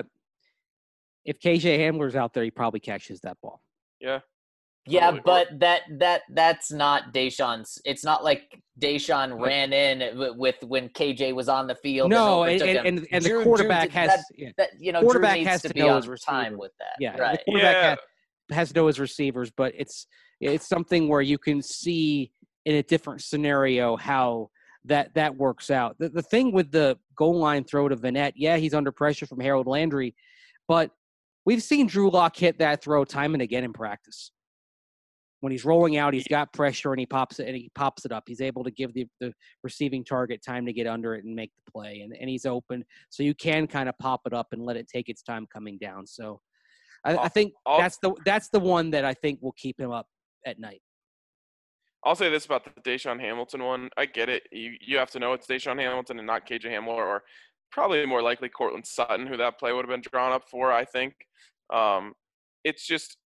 [SPEAKER 4] If KJ Hamler's out there, he probably catches that ball.
[SPEAKER 1] Yeah.
[SPEAKER 3] Yeah,
[SPEAKER 1] Totally.
[SPEAKER 3] but that's not Deshaun's. It's not like Deshaun ran in with when KJ was on the field.
[SPEAKER 4] No,
[SPEAKER 3] and
[SPEAKER 4] and the
[SPEAKER 3] Drew
[SPEAKER 4] quarterback
[SPEAKER 3] Drew,
[SPEAKER 4] has
[SPEAKER 3] quarterback
[SPEAKER 4] Drew needs
[SPEAKER 3] has
[SPEAKER 4] to
[SPEAKER 3] be
[SPEAKER 4] know
[SPEAKER 3] on
[SPEAKER 4] his
[SPEAKER 3] time
[SPEAKER 4] receiver.
[SPEAKER 3] with that.
[SPEAKER 4] Yeah,
[SPEAKER 3] right.
[SPEAKER 4] the quarterback has to know his receivers, but it's something where you can see in a different scenario how that works out. The thing with the goal line throw to Vanette, yeah, he's under pressure from Harold Landry, but we've seen Drew Lock hit that throw time and again in practice. When he's rolling out, he's got pressure and he pops it up. He's able to give the receiving target time to get under it and make the play, and he's open, so you can kind of pop it up and let it take its time coming down. So I think that's the one that I think will keep him up at night.
[SPEAKER 1] I'll say this about the Deshaun Hamilton one. I get it. You have to know it's Deshaun Hamilton and not KJ Hamler, or probably more likely Cortland Sutton, who that play would have been drawn up for, I think. It's just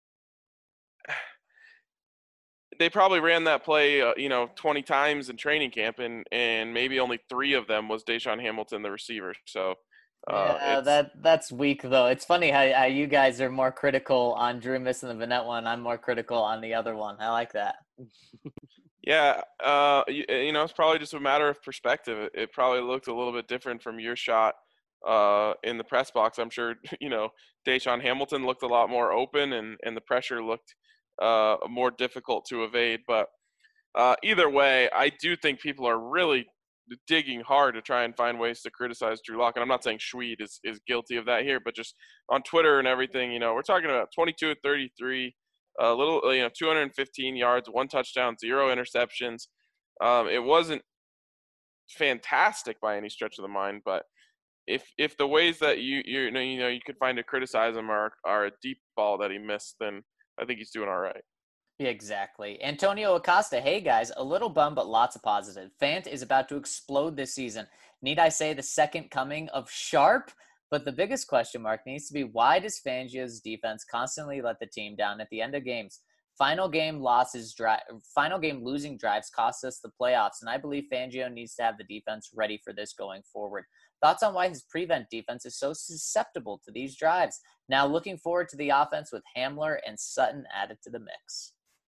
[SPEAKER 1] they probably ran that play, 20 times in training camp, and maybe only 3 of them was Deshaun Hamilton, the receiver. So
[SPEAKER 3] Yeah,
[SPEAKER 1] it's
[SPEAKER 3] that's weak though. It's funny how you guys are more critical on Drew missing the Vanette one. I'm more critical on the other one. I like that.
[SPEAKER 1] yeah, it's probably just a matter of perspective. It probably looked a little bit different from your shot in the press box. I'm sure Deshaun Hamilton looked a lot more open, and the pressure looked more difficult to evade. But either way, I do think people are really digging hard to try and find ways to criticize Drew Lock. And I'm not saying Schweed is guilty of that here, but just on Twitter and everything, we're talking about 22 of 33, a little, 215 yards, 1 touchdown, 0 interceptions. It wasn't fantastic by any stretch of the mind, but if the ways that you could find to criticize him are a deep ball that he missed, then I think he's doing all right.
[SPEAKER 3] Yeah, exactly. Antonio Acosta, hey guys, a little bum, but lots of positive. Fant is about to explode this season. Need I say the second coming of Sharp? But the biggest question mark needs to be, why does Fangio's defense constantly let the team down at the end of games? Final game losing drives cost us the playoffs, and I believe Fangio needs to have the defense ready for this going forward. Thoughts on why his prevent defense is so susceptible to these drives? Now looking forward to the offense with Hamler and Sutton added to the mix.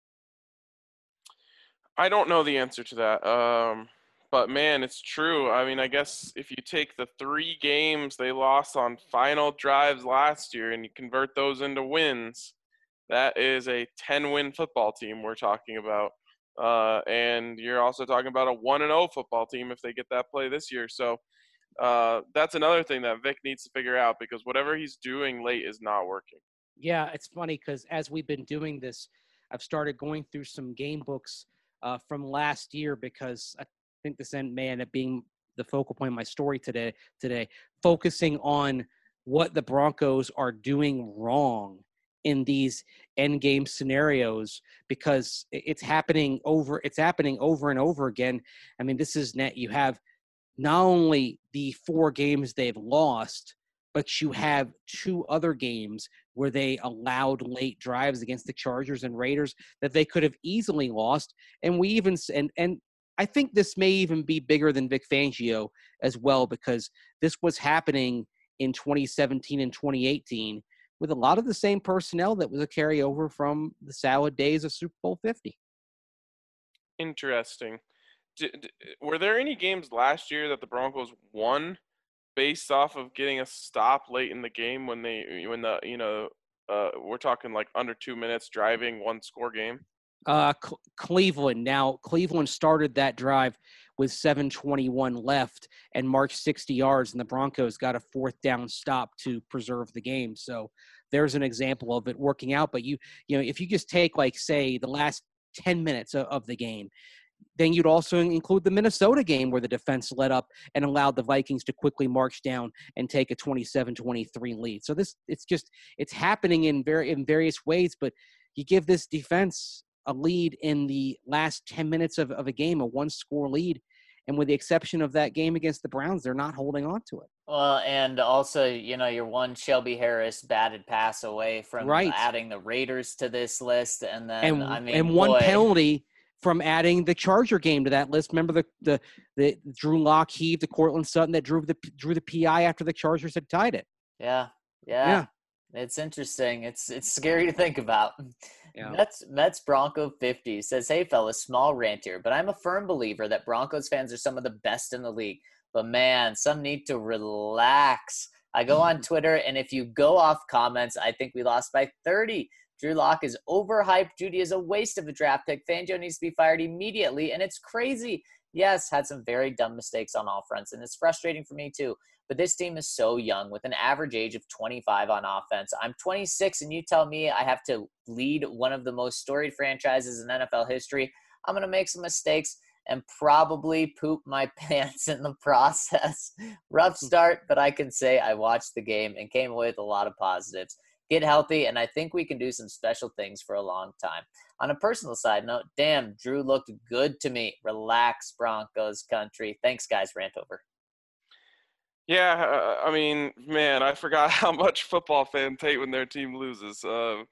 [SPEAKER 1] I don't know the answer to that. But man, it's true. I mean, I guess if you take the 3 games they lost on final drives last year and you convert those into wins, that is a 10-win football team we're talking about. And you're also talking about a 1-0 football team if they get that play this year. So that's another thing that Vic needs to figure out, because whatever he's doing late is not working.
[SPEAKER 4] Yeah, it's funny because as we've been doing this, I've started going through some game books from last year, because I think this may end up being the focal point of my story today, focusing on what the Broncos are doing wrong in these end game scenarios, because it's happening over and over again. I mean, this is net. You have not only the 4 games they've lost, but you have 2 other games where they allowed late drives against the Chargers and Raiders that they could have easily lost. And we even and I think this may even be bigger than Vic Fangio as well, because this was happening in 2017 and 2018 with a lot of the same personnel that was a carryover from the salad days of Super Bowl 50.
[SPEAKER 1] Interesting. Were there any games last year that the Broncos won based off of getting a stop late in the game when we're talking like under 2 minutes driving 1-score game?
[SPEAKER 4] Cleveland. Now, Cleveland started that drive with 7:21 left and marched 60 yards, and the Broncos got a 4th down stop to preserve the game. So there's an example of it working out. But if you just take, like, say, the last 10 minutes of the game, then you'd also include the Minnesota game where the defense let up and allowed the Vikings to quickly march down and take a 27-23 lead. So it's happening in various ways, but you give this defense a lead in the last 10 minutes of a game, a 1-score lead. And with the exception of that game against the Browns, they're not holding on to it.
[SPEAKER 3] Well, and also, you're one Shelby Harris batted pass away from adding the Raiders to this list. And then,
[SPEAKER 4] one penalty from adding the Charger game to that list. Remember the Drew Lock heaved to Cortland Sutton that drew the PI after the Chargers had tied it.
[SPEAKER 3] Yeah. It's interesting. It's scary to think about.
[SPEAKER 4] Yeah.
[SPEAKER 3] Mets Bronco 50 says, hey fellas, small rant here, but I'm a firm believer that Broncos fans are some of the best in the league. But man, some need to relax. I go on Twitter, and if you go off comments, I think we lost by 30. Drew Lock is overhyped. Judy is a waste of a draft pick. Fangio needs to be fired immediately, and it's crazy. Yes, had some very dumb mistakes on all fronts, and it's frustrating for me too. But this team is so young with an average age of 25 on offense. I'm 26, and you tell me I have to lead one of the most storied franchises in NFL history. I'm going to make some mistakes and probably poop my pants in the process. Rough start, but I can say I watched the game and came away with a lot of positives. get healthy, and I think we can do some special things for a long time. On a personal side note, damn, Drew looked good to me. Relax, Broncos country. Thanks, guys. Rant over.
[SPEAKER 1] Yeah, I mean, man, I forgot how much football fans hate when their team loses.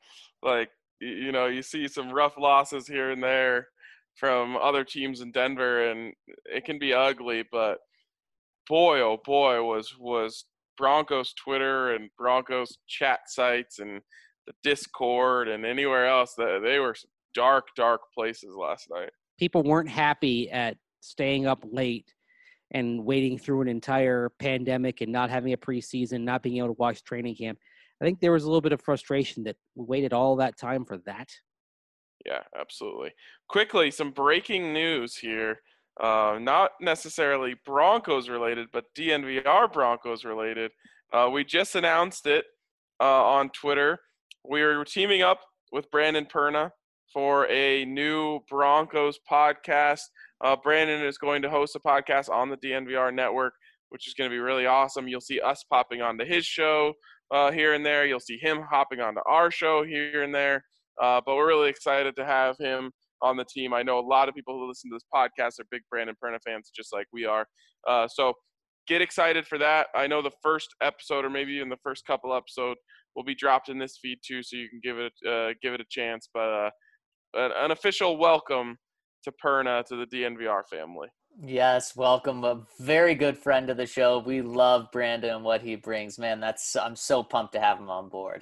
[SPEAKER 1] You see some rough losses here and there from other teams in Denver, and it can be ugly. But boy, oh boy, was Broncos Twitter and Broncos chat sites and the Discord and anywhere else that they were dark, dark places last night.
[SPEAKER 4] People weren't happy at staying up late and waiting through an entire pandemic and not having a preseason, not being able to watch training camp. I think there was a little bit of frustration that we waited all that time for that.
[SPEAKER 1] Yeah, absolutely. Quickly, some breaking news here. Not necessarily Broncos related, but DNVR Broncos related. We just announced it on Twitter. We're teaming up with Brandon Perna for a new Broncos podcast. Brandon is going to host a podcast on the DNVR network, which is going to be really awesome. You'll see us popping onto his show here and there. You'll see him hopping onto our show here and there. But we're really excited to have him on the team. I know a lot of people who listen to this podcast are big Brandon Perna fans, just like we are. So get excited for that. I know the first episode, or maybe even the first couple episodes, will be dropped in this feed too, so you can give it a chance. But an official welcome to Perna, to the DNVR family.
[SPEAKER 3] Yes, welcome. A very good friend of the show. We love Brandon and what he brings. Man, I'm so pumped to have him on board.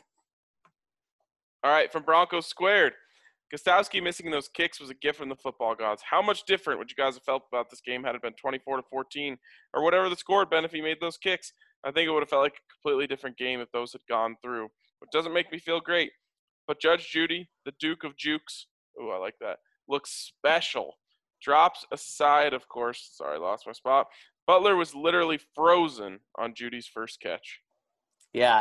[SPEAKER 1] All right, from Broncos Squared. Gostowski missing those kicks was a gift from the football gods. How much different would you guys have felt about this game had it been 24-14 or whatever the score had been if he made those kicks? I think it would have felt like a completely different game if those had gone through. It doesn't make me feel great. But Judge Judy, the Duke of Jukes, ooh, I like that, looks special. Drops aside, of course. Sorry, I lost my spot. Butler was literally frozen on Judy's first catch.
[SPEAKER 3] Yeah,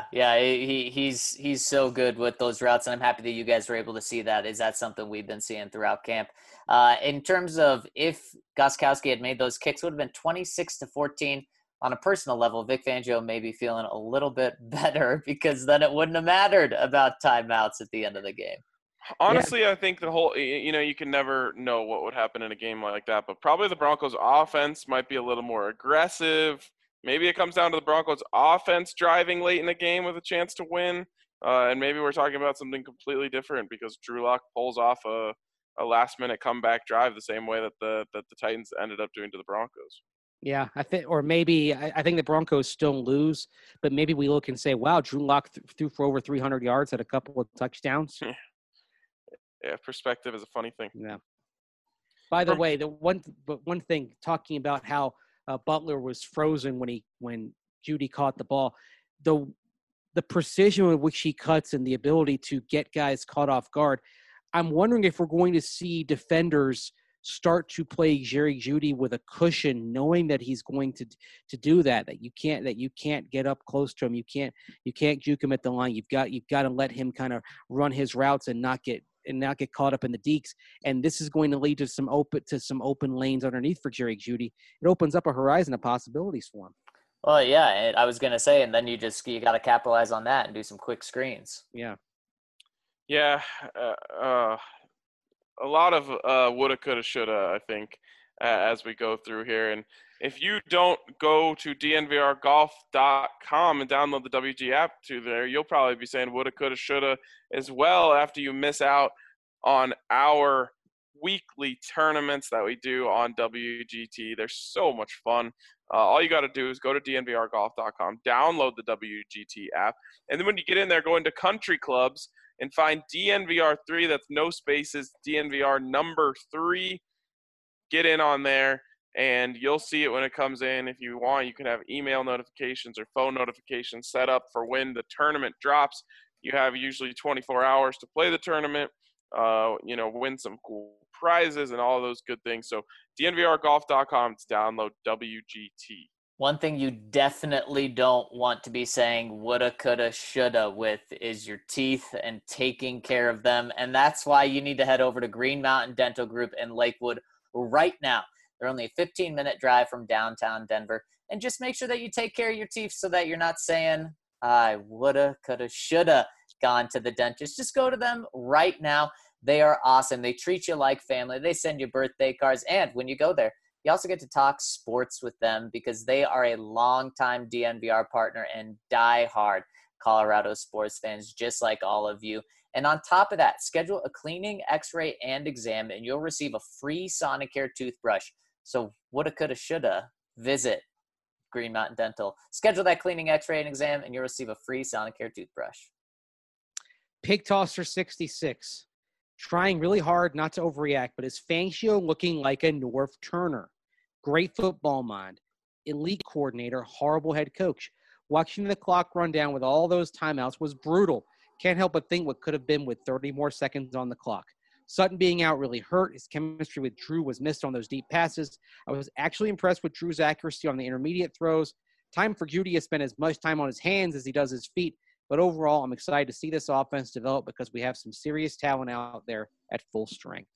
[SPEAKER 3] he's so good with those routes, and I'm happy that you guys were able to see that. Is that something we've been seeing throughout camp? In terms of if Gostkowski had made those kicks, it would have been 26-14. On a personal level, Vic Fangio may be feeling a little bit better because then it wouldn't have mattered about timeouts at the end of the game.
[SPEAKER 1] Honestly, yeah. I think the whole, you can never know what would happen in a game like that, but probably the Broncos offense might be a little more aggressive. Maybe it comes down to the Broncos offense driving late in the game with a chance to win. And maybe we're talking about something completely different because Drew Lock pulls off a last-minute comeback drive the same way that the Titans ended up doing to the Broncos.
[SPEAKER 4] Yeah, I think the Broncos still lose, but maybe we look and say, wow, Drew Lock threw for over 300 yards, had a couple of touchdowns.
[SPEAKER 1] Yeah, perspective is a funny thing.
[SPEAKER 4] Yeah. By the way, the one thing, talking about how Butler was frozen when Judy caught the ball, the precision with which he cuts and the ability to get guys caught off guard. I'm wondering if we're going to see defenders start to play Jerry Judy with a cushion, knowing that he's going to do that. That you can't get up close to him. You can't juke him at the line. You've got to let him kind of run his routes and not get caught up in the deeks. And this is going to lead to some open lanes underneath for Jerry Judy. It opens up a horizon of possibilities for him.
[SPEAKER 3] Well, yeah, I was gonna say, and then you got to capitalize on that and do some quick screens.
[SPEAKER 4] Yeah.
[SPEAKER 1] Yeah. A lot of woulda, coulda, shoulda, I think, as we go through here. And if you don't go to dnvrgolf.com and download the WG app to there, you'll probably be saying woulda, coulda, shoulda as well after you miss out on our weekly tournaments that we do on WGT. They're so much fun. All you got to do is go to dnvrgolf.com, download the WGT app, and then when you get in there, go into country clubs and find DNVR3, that's no spaces, DNVR number 3. Get in on there, and you'll see it when it comes in. If you want, you can have email notifications or phone notifications set up for when the tournament drops. You have usually 24 hours to play the tournament, win some cool prizes and all those good things. So dnvrgolf.com to download WGT.
[SPEAKER 3] One thing you definitely don't want to be saying woulda, coulda, shoulda with is your teeth and taking care of them. And that's why you need to head over to Green Mountain Dental Group in Lakewood right now. They're only a 15-minute drive from downtown Denver. And just make sure that you take care of your teeth so that you're not saying, I woulda, coulda, shoulda. gone to the dentist, just go to them right now. They are awesome. They treat you like family. They send you birthday cards. And when you go there, you also get to talk sports with them because they are a longtime DNVR partner and diehard Colorado sports fans, just like all of you. And on top of that, schedule a cleaning, x-ray, and exam, and you'll receive a free Sonicare toothbrush. So woulda, coulda, shoulda, visit Green Mountain Dental. Schedule that cleaning, x-ray, and exam, and you'll receive a free Sonicare toothbrush.
[SPEAKER 4] Pig Tosser 66. Trying really hard not to overreact, but is Fangio looking like a Norv Turner? Great football mind, elite coordinator, horrible head coach. Watching the clock run down with all those timeouts was brutal. Can't help but think what could have been with 30 more seconds on the clock. Sutton being out really hurt. His chemistry with Drew was missed on those deep passes. I was actually impressed with Drew's accuracy on the intermediate throws. Time for Judy to spend as much time on his hands as he does his feet. But overall, I'm excited to see this offense develop because we have some serious talent out there at full strength.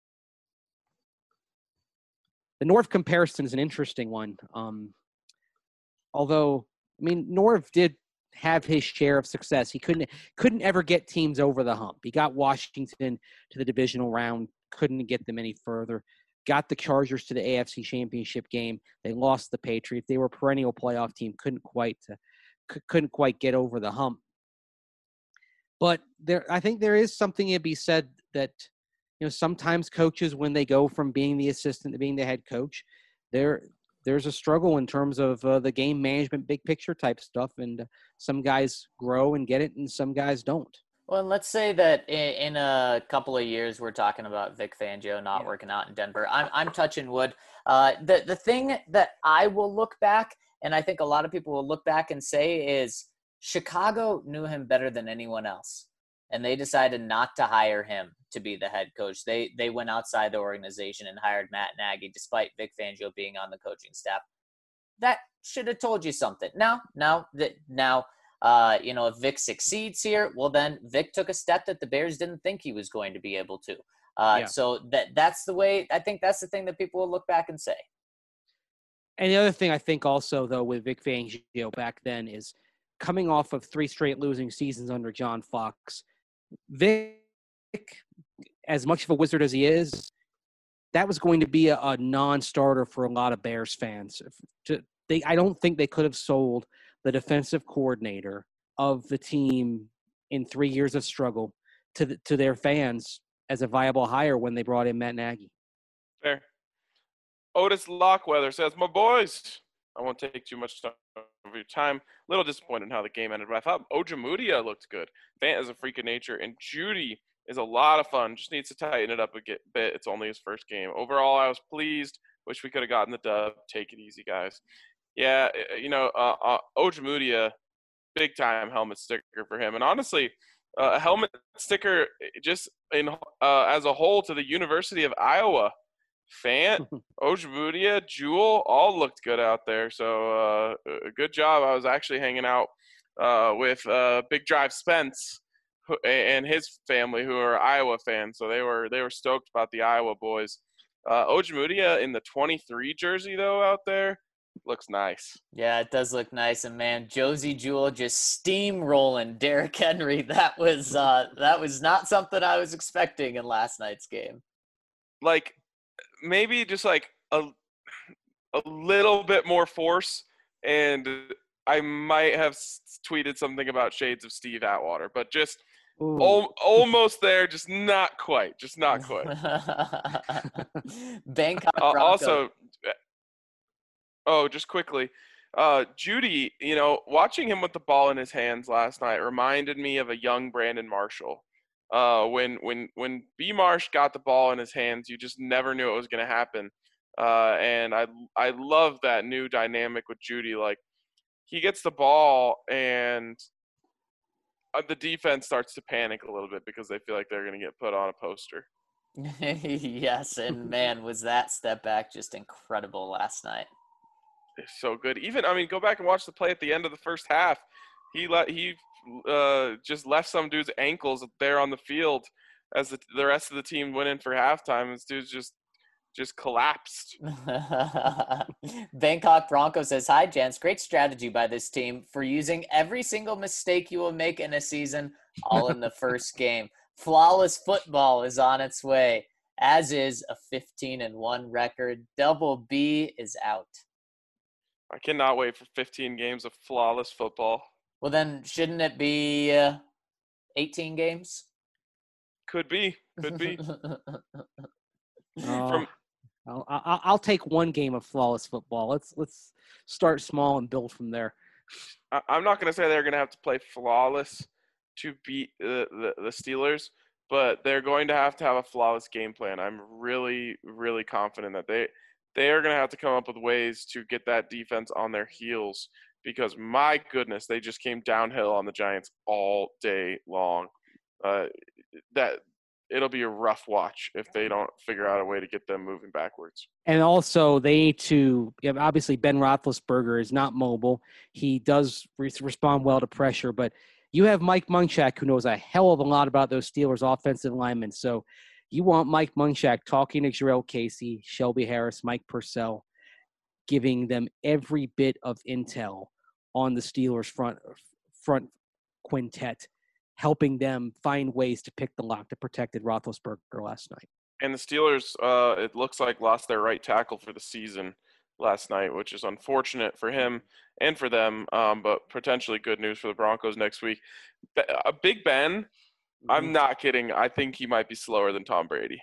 [SPEAKER 4] The Norv comparison is an interesting one. Although, I mean, Norv did have his share of success. He couldn't ever get teams over the hump. He got Washington to the divisional round, couldn't get them any further. Got the Chargers to the AFC Championship game. They lost the Patriots. They were a perennial playoff team. Couldn't quite get over the hump. But I think there is something to be said that, you know, sometimes coaches, when they go from being the assistant to being the head coach, there's a struggle in terms of the game management, big picture type stuff. And some guys grow and get it, and some guys don't.
[SPEAKER 3] Well, and let's say that in a couple of years, we're talking about Vic Fangio not working out in Denver. I'm touching wood. The thing that I will look back, and I think a lot of people will look back and say, is Chicago knew him better than anyone else, and they decided not to hire him to be the head coach. They went outside the organization and hired Matt Nagy, despite Vic Fangio being on the coaching staff. That should have told you something. Now, if Vic succeeds here, well, then Vic took a step that the Bears didn't think he was going to be able to. So that's the way. I think that's the thing that people will look back and say.
[SPEAKER 4] And the other thing I think also, though, with Vic Fangio back then is coming off of 3 straight losing seasons under John Fox. Vic, as much of a wizard as he is, that was going to be a non-starter for a lot of Bears fans. I don't think they could have sold the defensive coordinator of the team in 3 years of struggle to their fans as a viable hire when they brought in Matt Nagy.
[SPEAKER 1] Fair. Otis Lockweather says, my boys, I won't take too much of your time. A little disappointed in how the game ended, but I thought Ojemudia looked good. Fant is a freak of nature, and Judy is a lot of fun. Just needs to tighten it up a bit. It's only his first game. Overall, I was pleased. Wish we could have gotten the dub. Take it easy, guys. Yeah, Ojemudia, big-time helmet sticker for him. And honestly, a helmet sticker just as a whole to the University of Iowa. Fant, Ojemudia, Jewel, all looked good out there. So good job. I was actually hanging out with Big Drive Spence and his family, who are Iowa fans. So they were stoked about the Iowa boys. Ojemudia in the 23 jersey, though, out there, looks nice.
[SPEAKER 3] Yeah, it does look nice. And, man, Josie Jewell just steamrolling Derrick Henry. That was not something I was expecting in last night's game.
[SPEAKER 1] Like, maybe just like a little bit more force, and I might have tweeted something about shades of Steve Atwater, but just almost there, just not quite.
[SPEAKER 3] Bangkok
[SPEAKER 1] also, just quickly, Judy, watching him with the ball in his hands last night reminded me of a young Brandon Marshall. When B. Marsh got the ball in his hands, you just never knew it was going to happen. And I love that new dynamic with Judy. Like, he gets the ball and the defense starts to panic a little bit because they feel like they're going to get put on a poster.
[SPEAKER 3] Yes, and man, was that step back just incredible last night.
[SPEAKER 1] It's so good. Go back and watch the play at the end of the first half. He just left some dude's ankles there on the field as the rest of the team went in for halftime. This dude's just just collapsed.
[SPEAKER 3] Bangkok Bronco says, "Hi, gents. Great strategy by this team for using every single mistake you will make in a season, all in the first game. Flawless football is on its way, as is a 15-1 record. Double B is out."
[SPEAKER 1] I cannot wait for 15 games of flawless football.
[SPEAKER 3] Well, then shouldn't it be 18 games?
[SPEAKER 1] Could be.
[SPEAKER 4] Oh, I'll take one game of flawless football. Let's start small and build from there.
[SPEAKER 1] I'm not going to say they're going to have to play flawless to beat the Steelers, but they're going to have a flawless game plan. I'm really, really confident that they are going to have to come up with ways to get that defense on their heels because, my goodness, they just came downhill on the Giants all day long. That it'll be a rough watch if they don't figure out a way to get them moving backwards.
[SPEAKER 4] And also, they need to obviously Ben Roethlisberger is not mobile. He does respond well to pressure, but you have Mike Munchak, who knows a hell of a lot about those Steelers offensive linemen. So you want Mike Munchak talking to Jarrell Casey, Shelby Harris, Mike Purcell, giving them every bit of intel on the Steelers front quintet, helping them find ways to pick the lock that protected Roethlisberger last night.
[SPEAKER 1] And the Steelers, it looks like, lost their right tackle for the season last night, which is unfortunate for him and for them, but potentially good news for the Broncos next week. Big Ben, I'm not kidding. I think he might be slower than Tom Brady.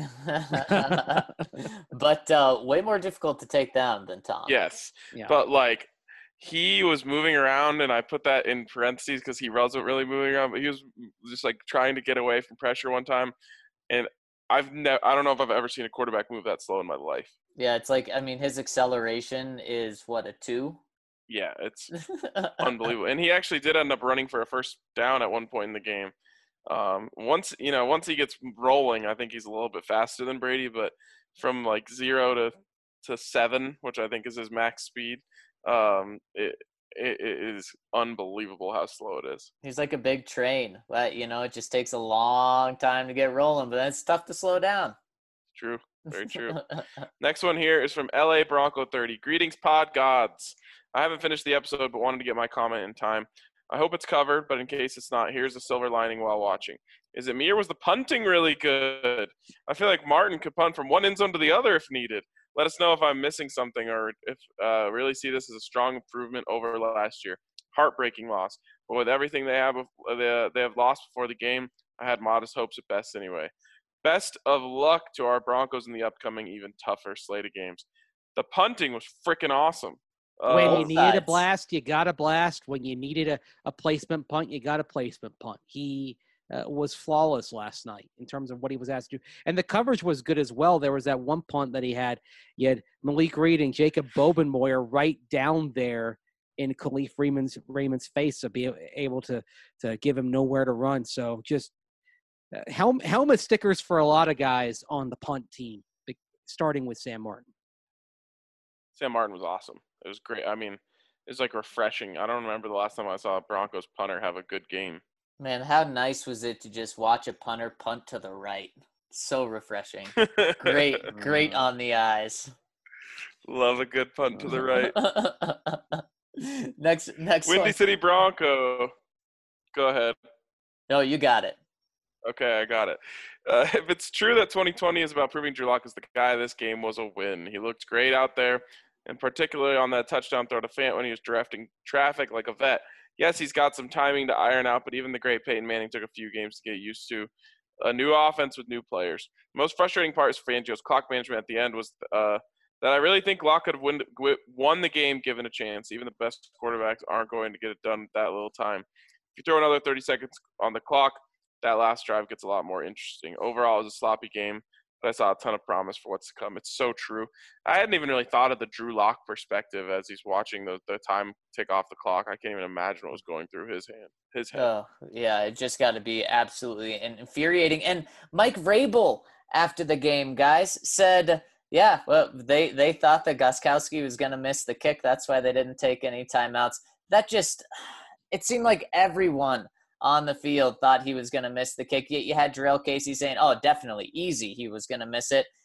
[SPEAKER 3] But way more difficult to take down than Tom.
[SPEAKER 1] Yes,
[SPEAKER 4] Yeah.
[SPEAKER 1] but like he was moving around, and I put that in parentheses because he wasn't really moving around, but he was just like trying to get away from pressure one time, and I don't know if I've ever seen a quarterback move that slow in my life.
[SPEAKER 3] Yeah, it's like, I mean, his acceleration is what, a 2?
[SPEAKER 1] Yeah, it's unbelievable. And he actually did end up running for a first down at one point in the game. Once he gets rolling, I think he's a little bit faster than Brady, but from like 0 to 7, which I think is his max speed, it is unbelievable how slow it is.
[SPEAKER 3] He's like a big train. But, it just takes a long time to get rolling, but then it's tough to slow down.
[SPEAKER 1] True. Very true. Next one here is from LA Bronco 30. Greetings, pod gods. I haven't finished the episode, but wanted to get my comment in time. I hope it's covered, but in case it's not, here's a silver lining while watching. Is it me or was the punting really good? I feel like Martin could punt from one end zone to the other if needed. Let us know if I'm missing something or if really see this as a strong improvement over last year. Heartbreaking loss. But with everything they have lost before the game, I had modest hopes at best anyway. Best of luck to our Broncos in the upcoming, even tougher slate of games. The punting was freaking awesome.
[SPEAKER 4] When you needed a blast, you got a blast. When you needed a placement punt, you got a placement punt. He was flawless last night in terms of what he was asked to do. And the coverage was good as well. There was that one punt that he had. You had Malik Reed and Jacob Bobenmoyer right down there in Khalif Raymond's face to be able to give him nowhere to run. So just helmet stickers for a lot of guys on the punt team, starting with Sam Martin.
[SPEAKER 1] Sam Martin was awesome. It was great. I mean, it was like refreshing. I don't remember the last time I saw a Broncos punter have a good game.
[SPEAKER 3] Man, how nice was it to just watch a punter punt to the right? So refreshing. Great on the eyes.
[SPEAKER 1] Love a good punt to the right.
[SPEAKER 3] Next
[SPEAKER 1] Windy
[SPEAKER 3] one.
[SPEAKER 1] City Bronco. Go ahead.
[SPEAKER 3] No, you got it.
[SPEAKER 1] Okay, I got it. If it's true that 2020 is about proving Drew Lock is the guy, this game was a win. He looked great out there, and particularly on that touchdown throw to Fant when he was directing traffic like a vet. Yes, he's got some timing to iron out, but even the great Peyton Manning took a few games to get used to a new offense with new players. The most frustrating part for Fangio's clock management at the end was that I really think Lock could have won the game given a chance. Even the best quarterbacks aren't going to get it done with that little time. If you throw another 30 seconds on the clock, that last drive gets a lot more interesting. Overall, it was a sloppy game, but I saw a ton of promise for what's to come. It's so true. I hadn't even really thought of the Drew Lock perspective as he's watching the time tick off the clock. I can't even imagine what was going through his head.
[SPEAKER 3] Oh, yeah, it just got to be absolutely infuriating. And Mike Vrabel, after the game, guys, said, yeah, well, they thought that Gostkowski was going to miss the kick. That's why they didn't take any timeouts. It seemed like everyone on the field thought he was going to miss the kick. You had Jarrell Casey saying, oh, definitely, easy, he was going to miss it.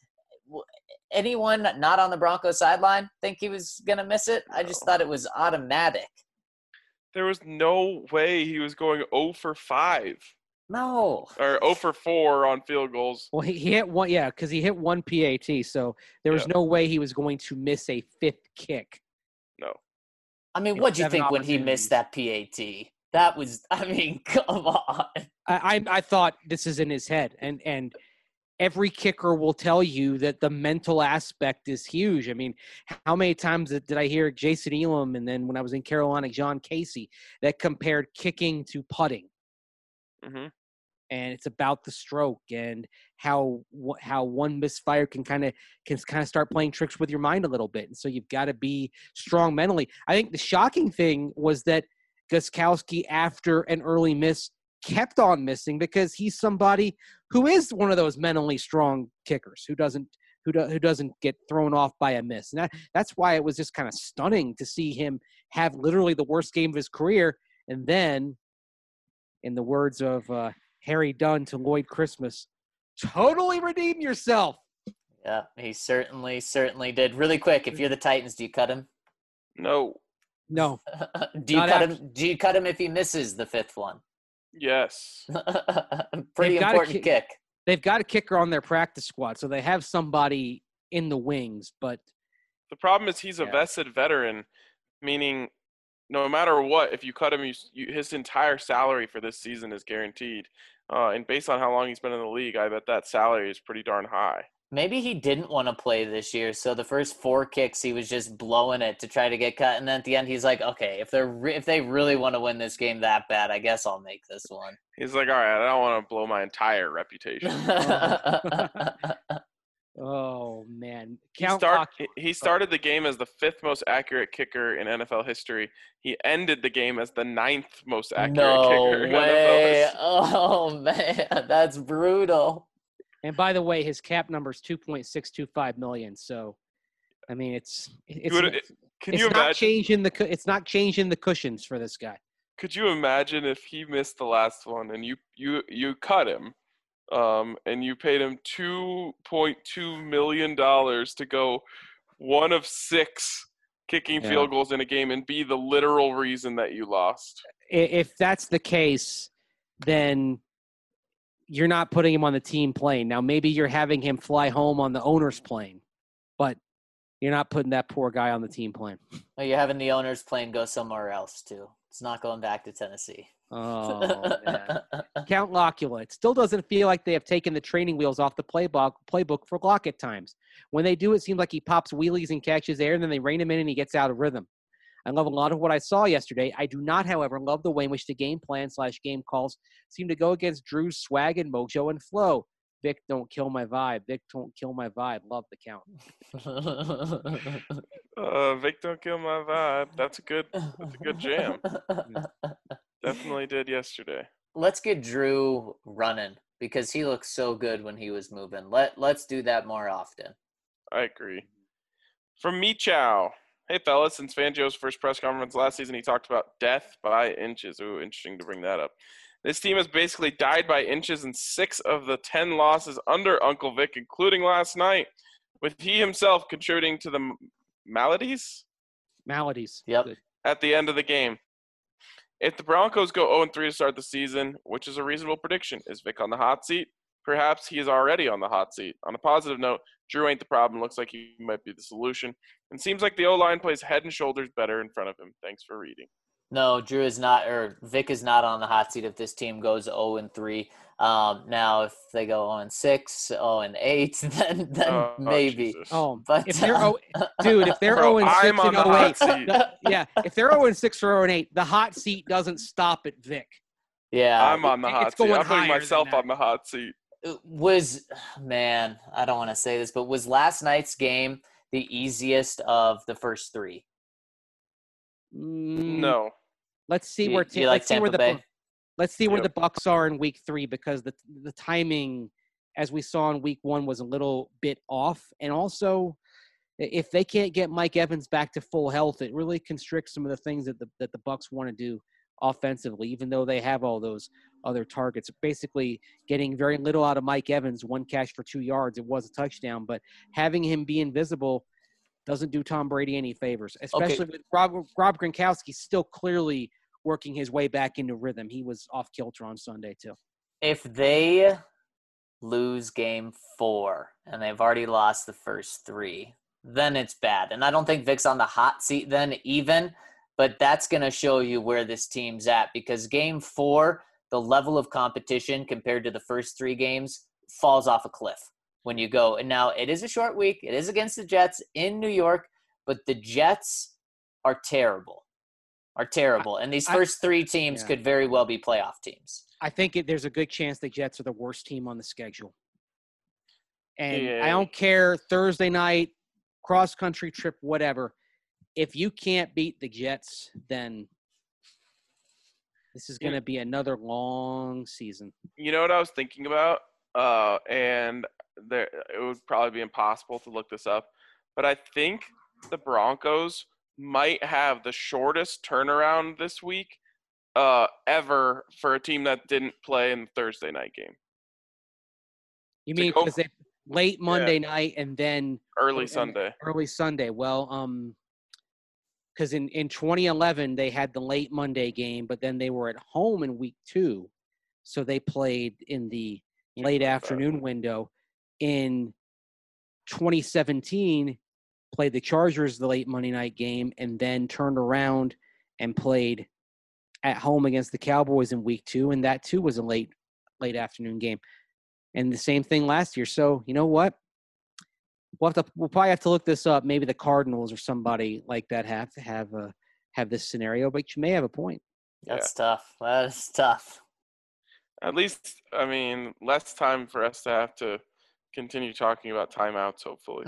[SPEAKER 3] anyone not on the Broncos sideline think he was going to miss it? I just thought it was automatic.
[SPEAKER 1] There was no way he was going 0 for 5
[SPEAKER 3] No.
[SPEAKER 1] or 0 for 4 on field goals.
[SPEAKER 4] Well, he hit one, yeah, because he hit one PAT, so there was no way he was going to miss a fifth kick.
[SPEAKER 1] No.
[SPEAKER 3] I mean,
[SPEAKER 4] And
[SPEAKER 3] what'd you
[SPEAKER 4] 7
[SPEAKER 3] think when he missed that PAT? That was, I mean, come on.
[SPEAKER 4] I thought this is in his head, and every kicker will tell you that the mental aspect is huge. I mean, how many times did I hear Jason Elam, and then when I was in Carolina, John Casey, that compared kicking to putting?
[SPEAKER 1] Mm-hmm.
[SPEAKER 4] And it's about the stroke and how one misfire can kind of start playing tricks with your mind a little bit. And so you've got to be strong mentally. I think the shocking thing was that Gostkowski, after an early miss, kept on missing because he's somebody who is one of those mentally strong kickers who doesn't get thrown off by a miss. And that's why it was just kind of stunning to see him have literally the worst game of his career. And then, in the words of Harry Dunn to Lloyd Christmas, totally redeem yourself.
[SPEAKER 3] Yeah, he certainly did. Really quick, if you're the Titans, do you cut him?
[SPEAKER 1] No.
[SPEAKER 4] No.
[SPEAKER 3] Do you cut him if he misses the fifth one?
[SPEAKER 1] Yes.
[SPEAKER 3] Pretty important kick.
[SPEAKER 4] They've got a kicker on their practice squad, so they have somebody in the wings. But
[SPEAKER 1] the problem is he's a vested veteran, meaning no matter what, if you cut him, his entire salary for this season is guaranteed. And based on how long he's been in the league, I bet that salary is pretty darn high.
[SPEAKER 3] Maybe he didn't want to play this year, so the first 4 kicks he was just blowing it to try to get cut, and then at the end he's like, okay, if they really want to win this game that bad, I guess I'll make this one.
[SPEAKER 1] He's like, all right, I don't want to blow my entire reputation.
[SPEAKER 4] Oh man,
[SPEAKER 1] he started the game as the 5th most accurate kicker in NFL history. He ended the game as the 9th most accurate kicker in NFL history.
[SPEAKER 3] Oh man, that's brutal.
[SPEAKER 4] And by the way, his cap number is $2.625 million. So, I mean, it's not changing the cushions for this guy.
[SPEAKER 1] Could you imagine if he missed the last one and you cut him, and you paid him $2.2 million to go 1 of 6 kicking field goals in a game and be the literal reason that you lost?
[SPEAKER 4] If that's the case, then you're not putting him on the team plane. Now, maybe you're having him fly home on the owner's plane, but you're not putting that poor guy on the team plane.
[SPEAKER 3] Well, you're having the owner's plane go somewhere else, too. It's not going back to Tennessee.
[SPEAKER 4] Oh, man. Count Locula. It still doesn't feel like they have taken the training wheels off the playbook for Glock at times. When they do, it seems like he pops wheelies and catches air, and then they rein him in and he gets out of rhythm. I love a lot of what I saw yesterday. I do not, however, love the way in which the game plan / game calls seem to go against Drew's swag and mojo and flow. Vic, don't kill my vibe. Vic, don't kill my vibe. Love the count.
[SPEAKER 1] Vic, don't kill my vibe. That's a good jam. Definitely did yesterday.
[SPEAKER 3] Let's get Drew running because he looked so good when he was moving. Let's do that more often.
[SPEAKER 1] I agree. From Michow. Hey, fellas, since Fangio's first press conference last season, he talked about death by inches. Ooh, interesting to bring that up. This team has basically died by inches in 6 of the 10 losses under Uncle Vic, including last night, with he himself contributing to the maladies?
[SPEAKER 4] Maladies.
[SPEAKER 3] Yep.
[SPEAKER 4] Good.
[SPEAKER 1] At the end of the game. If the Broncos go 0-3 to start the season, which is a reasonable prediction, is Vic on the hot seat? Perhaps he is already on the hot seat. On a positive note, Drew ain't the problem. Looks like he might be the solution. And seems like the O-line plays head and shoulders better in front of him. Thanks for reading.
[SPEAKER 3] No, Drew is not, or Vic is not on the hot seat if this team goes 0-3. Now, if they go 0-6, 0-8, then maybe.
[SPEAKER 1] Jesus.
[SPEAKER 4] Oh,
[SPEAKER 3] But
[SPEAKER 4] if they're if they're
[SPEAKER 1] Bro,
[SPEAKER 4] 0-6
[SPEAKER 1] I'm on
[SPEAKER 4] and
[SPEAKER 1] the hot
[SPEAKER 4] 0-8,
[SPEAKER 1] seat.
[SPEAKER 4] yeah, if they're 0-6 or 0-8, the hot seat doesn't stop at Vic.
[SPEAKER 3] Yeah.
[SPEAKER 1] I'm on the hot
[SPEAKER 4] it's
[SPEAKER 1] seat.
[SPEAKER 4] going
[SPEAKER 1] I'm putting
[SPEAKER 4] higher than
[SPEAKER 1] myself
[SPEAKER 4] that.
[SPEAKER 1] on the hot seat.
[SPEAKER 3] Man, I don't want to say this, but was last night's game the easiest of the first 3?
[SPEAKER 1] No.
[SPEAKER 4] Let's see where
[SPEAKER 3] Do you like
[SPEAKER 4] let's see where
[SPEAKER 3] Tampa Bay?
[SPEAKER 4] let's see where
[SPEAKER 1] Yep.
[SPEAKER 4] the Bucs are in week 3 because the timing, as we saw in week 1, was a little bit off, and also if they can't get Mike Evans back to full health, it really constricts some of the things that the Bucs want to do offensively, even though they have all those other targets. Basically getting very little out of Mike Evans, 1 catch for 2 yards. It was a touchdown, but having him be invisible doesn't do Tom Brady any favors, especially with Rob Gronkowski still clearly working his way back into rhythm. He was off kilter on Sunday too.
[SPEAKER 3] If they lose game 4 and they've already lost the first 3, then it's bad. And I don't think Vic's on the hot seat then even, but that's going to show you where this team's at, because game 4, the level of competition compared to the first 3 games falls off a cliff when you go. And now it is a short week. It is against the Jets in New York, but the Jets are terrible. And these first 3 teams could very well be playoff teams.
[SPEAKER 4] I think there's a good chance the Jets are the worst team on the schedule. And I don't care, Thursday night, cross-country trip, whatever. If you can't beat the Jets, then this is going to be another long season.
[SPEAKER 1] You know what I was thinking about? And it would probably be impossible to look this up, but I think the Broncos might have the shortest turnaround this week ever for a team that didn't play in the Thursday night game.
[SPEAKER 4] You mean because they late Monday night and then
[SPEAKER 1] early Sunday?
[SPEAKER 4] Early Sunday. Well, because in 2011 they had the late Monday game, but then they were at home in week 2, so they played in the late afternoon window. In 2017, played the Chargers the late Monday night game, and then turned around and played at home against the Cowboys in week 2, and that too was a late afternoon game. And the same thing last year. So you know what? We'll probably have to look this up. Maybe the Cardinals or somebody like that have this scenario, but you may have a point.
[SPEAKER 3] That's tough. That is tough.
[SPEAKER 1] At least, I mean, less time for us to have to continue talking about timeouts, hopefully.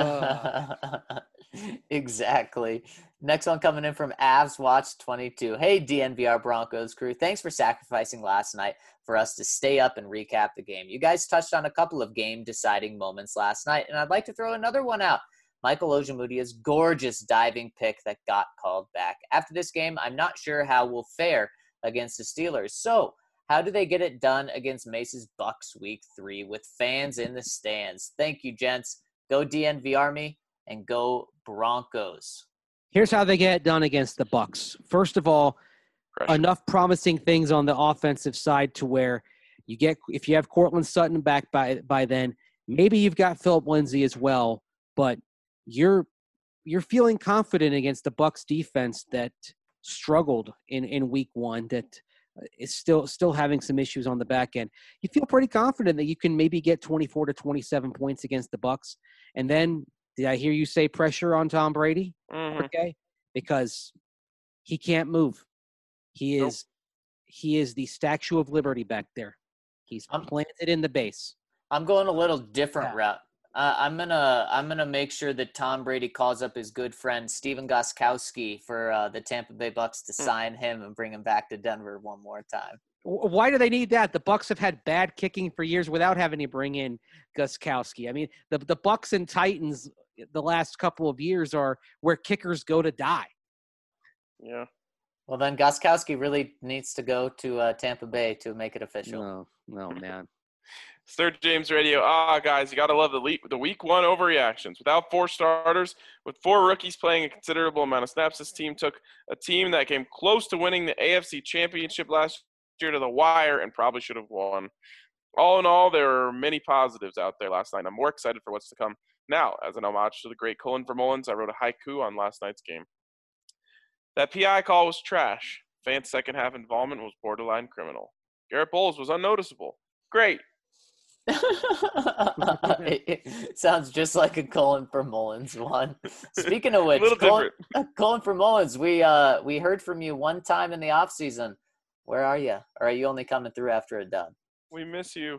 [SPEAKER 3] Exactly. Next one coming in from Avs Watch 22. Hey, DNVR Broncos crew. Thanks for sacrificing last night for us to stay up and recap the game. You guys touched on a couple of game-deciding moments last night, and I'd like to throw another one out. Michael Ojemudia's gorgeous diving pick that got called back. After this game, I'm not sure how we'll fare against the Steelers. So, how do they get it done against Mace's Bucks week 3 with fans in the stands? Thank you, gents. Go DNVR me and go Broncos.
[SPEAKER 4] Here's how they get it done against the Bucks. First of all, enough promising things on the offensive side to where if you have Cortland Sutton back by then, maybe you've got Philip Lindsay as well, but you're feeling confident against the Bucks defense that struggled in week 1, that is still having some issues on the back end. You feel pretty confident that you can maybe get 24 to 27 points against the Bucks. And then, did I hear you say pressure on Tom Brady?
[SPEAKER 1] Mm-hmm.
[SPEAKER 4] Okay, because he can't move. He is the Statue of Liberty back there. He's planted in the base.
[SPEAKER 3] I'm going a little different route. I'm gonna make sure that Tom Brady calls up his good friend Steven Gostkowski for the Tampa Bay Bucks to sign him and bring him back to Denver one more time.
[SPEAKER 4] Why do they need that? The Bucks have had bad kicking for years without having to bring in Gostkowski. I mean, the Bucks and Titans the last couple of years are where kickers go to die.
[SPEAKER 1] Yeah.
[SPEAKER 3] Well, then Gostkowski really needs to go to Tampa Bay to make it official.
[SPEAKER 4] No, man.
[SPEAKER 1] Third James Radio. Guys, you got to love the week 1 overreactions. Without 4 starters, with 4 rookies playing a considerable amount of snaps, this team took a team that came close to winning the AFC Championship last year to the wire and probably should have won. All in all, there are many positives out there last night. I'm more excited for what's to come. Now, as an homage to the great Colin Vermullens, I wrote a haiku on last night's game. That PI call was trash. Fans' second half involvement was borderline criminal. Garrett Bowles was unnoticeable. Great.
[SPEAKER 3] It sounds just like a Colin Vermullens one. Speaking of which, Colin Vermullens, we heard from you one time in the off season. Where are you? Or are you only coming through after a dub?
[SPEAKER 1] We miss you.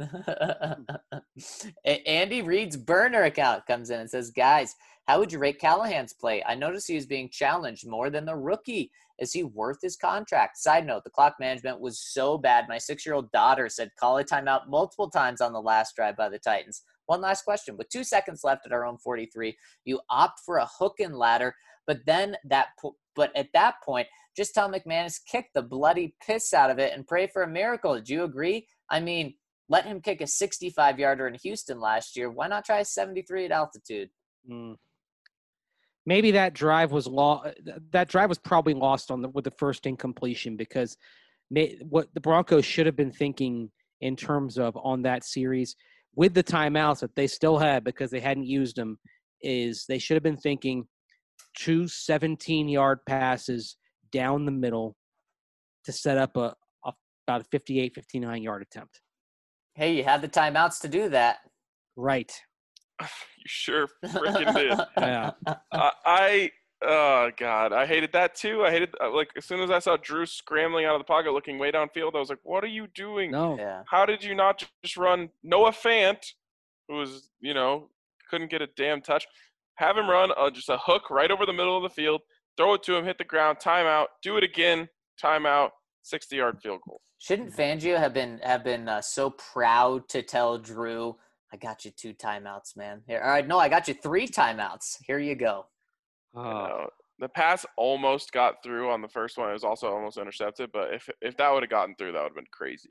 [SPEAKER 3] Andy Reid's burner account comes in and says, guys, how would you rate Callahan's play? I noticed he was being challenged more than the rookie. Is he worth his contract? Side note, the clock management was so bad. My 6-year-old daughter said call a timeout multiple times on the last drive by the Titans. One last question. With 2 seconds left at our own 43, you opt for a hook and ladder, but then that But at that point, just tell McManus, kick the bloody piss out of it and pray for a miracle. Do you agree? I mean, let him kick a 65-yarder in Houston last year. Why not try 73 at altitude?
[SPEAKER 4] Maybe that drive was That drive was probably lost with the first incompletion, because what the Broncos should have been thinking in terms of on that series with the timeouts that they still had because they hadn't used them is they should have been thinking 2 17-yard passes down the middle to set up about a 58, 59-yard attempt.
[SPEAKER 3] Hey, you had the timeouts to do that.
[SPEAKER 4] Right.
[SPEAKER 1] You sure freaking did.
[SPEAKER 4] Yeah.
[SPEAKER 1] Oh God, I hated that too. I hated like as soon as I saw Drew scrambling out of the pocket, looking way downfield, I was like, "What are you doing?
[SPEAKER 4] No.
[SPEAKER 3] Yeah.
[SPEAKER 1] How did you not just run Noah Fant, who was couldn't get a damn touch? Have him run just a hook right over the middle of the field, throw it to him, hit the ground, timeout, do it again, timeout, 60-yard field goal."
[SPEAKER 3] Shouldn't Fangio have been so proud to tell Drew, "I got you 2 timeouts, man. Here, all right, no, I got you 3 timeouts. Here you go."
[SPEAKER 1] The pass almost got through on the first one. It was also almost intercepted, but if that would have gotten through, that would have been crazy.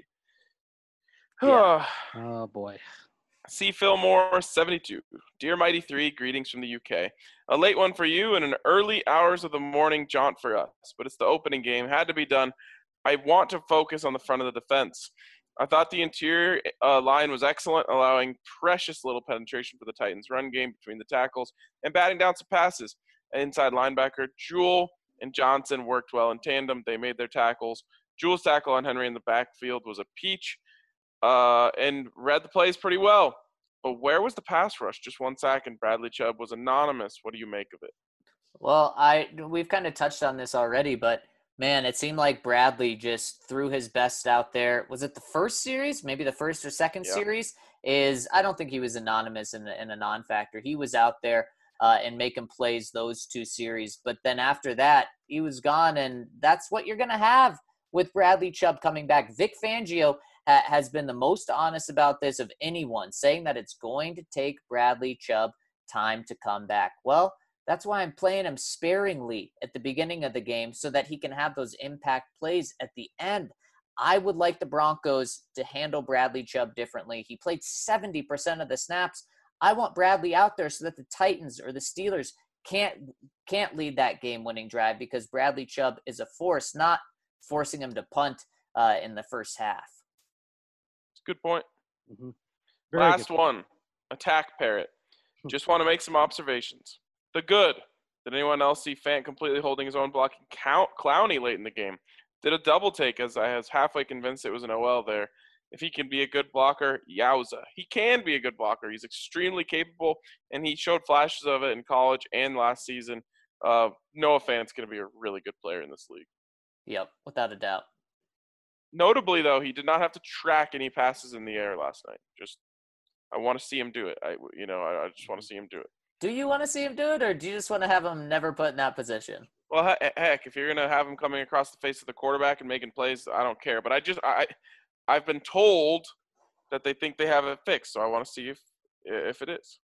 [SPEAKER 3] Yeah.
[SPEAKER 4] Oh, boy.
[SPEAKER 1] C. Fillmore, 72. Dear Mighty 3, greetings from the UK. A late one for you and an early hours of the morning jaunt for us, but it's the opening game. Had to be done. I want to focus on the front of the defense. I thought the interior line was excellent, allowing precious little penetration for the Titans' run game between the tackles and batting down some passes. Inside linebacker Jewell and Johnson worked well in tandem. They made their tackles. Jewell's tackle on Henry in the backfield was a peach and read the plays pretty well. But where was the pass rush? Just 1 sack, and Bradley Chubb was anonymous. What do you make of it?
[SPEAKER 3] Well, we've kind of touched on this already, but man, it seemed like Bradley just threw his best out there. Was it the first series? Maybe the first or second series? I don't think he was anonymous in a non-factor. He was out there and making plays those 2 series. But then after that, he was gone, and that's what you're going to have with Bradley Chubb coming back. Vic Fangio has been the most honest about this of anyone, saying that it's going to take Bradley Chubb time to come back. Well, that's why I'm playing him sparingly at the beginning of the game so that he can have those impact plays at the end. I would like the Broncos to handle Bradley Chubb differently. He played 70% of the snaps. I want Bradley out there so that the Titans or the Steelers can't lead that game-winning drive, because Bradley Chubb is a force, not forcing him to punt in the first half.
[SPEAKER 1] Good point.
[SPEAKER 4] Mm-hmm.
[SPEAKER 1] Last one, Attack Parrot. Just want to make some observations. The good. Did anyone else see Fant completely holding his own blocking Clowney late in the game? Did a double take, as I was halfway convinced it was an OL there. If he can be a good blocker, yowza. He can be a good blocker. He's extremely capable, and he showed flashes of it in college and last season. Noah Fant's going to be a really good player in this league.
[SPEAKER 3] Yep, without a doubt.
[SPEAKER 1] Notably, though, he did not have to track any passes in the air last night. I want to see him do it. I just want to see him do it.
[SPEAKER 3] Do you want to see him do it, or do you just want to have him never put in that position?
[SPEAKER 1] Well, heck, if you're going to have him coming across the face of the quarterback and making plays, I don't care. But I've been told that they think they have it fixed, so I want to see if it is.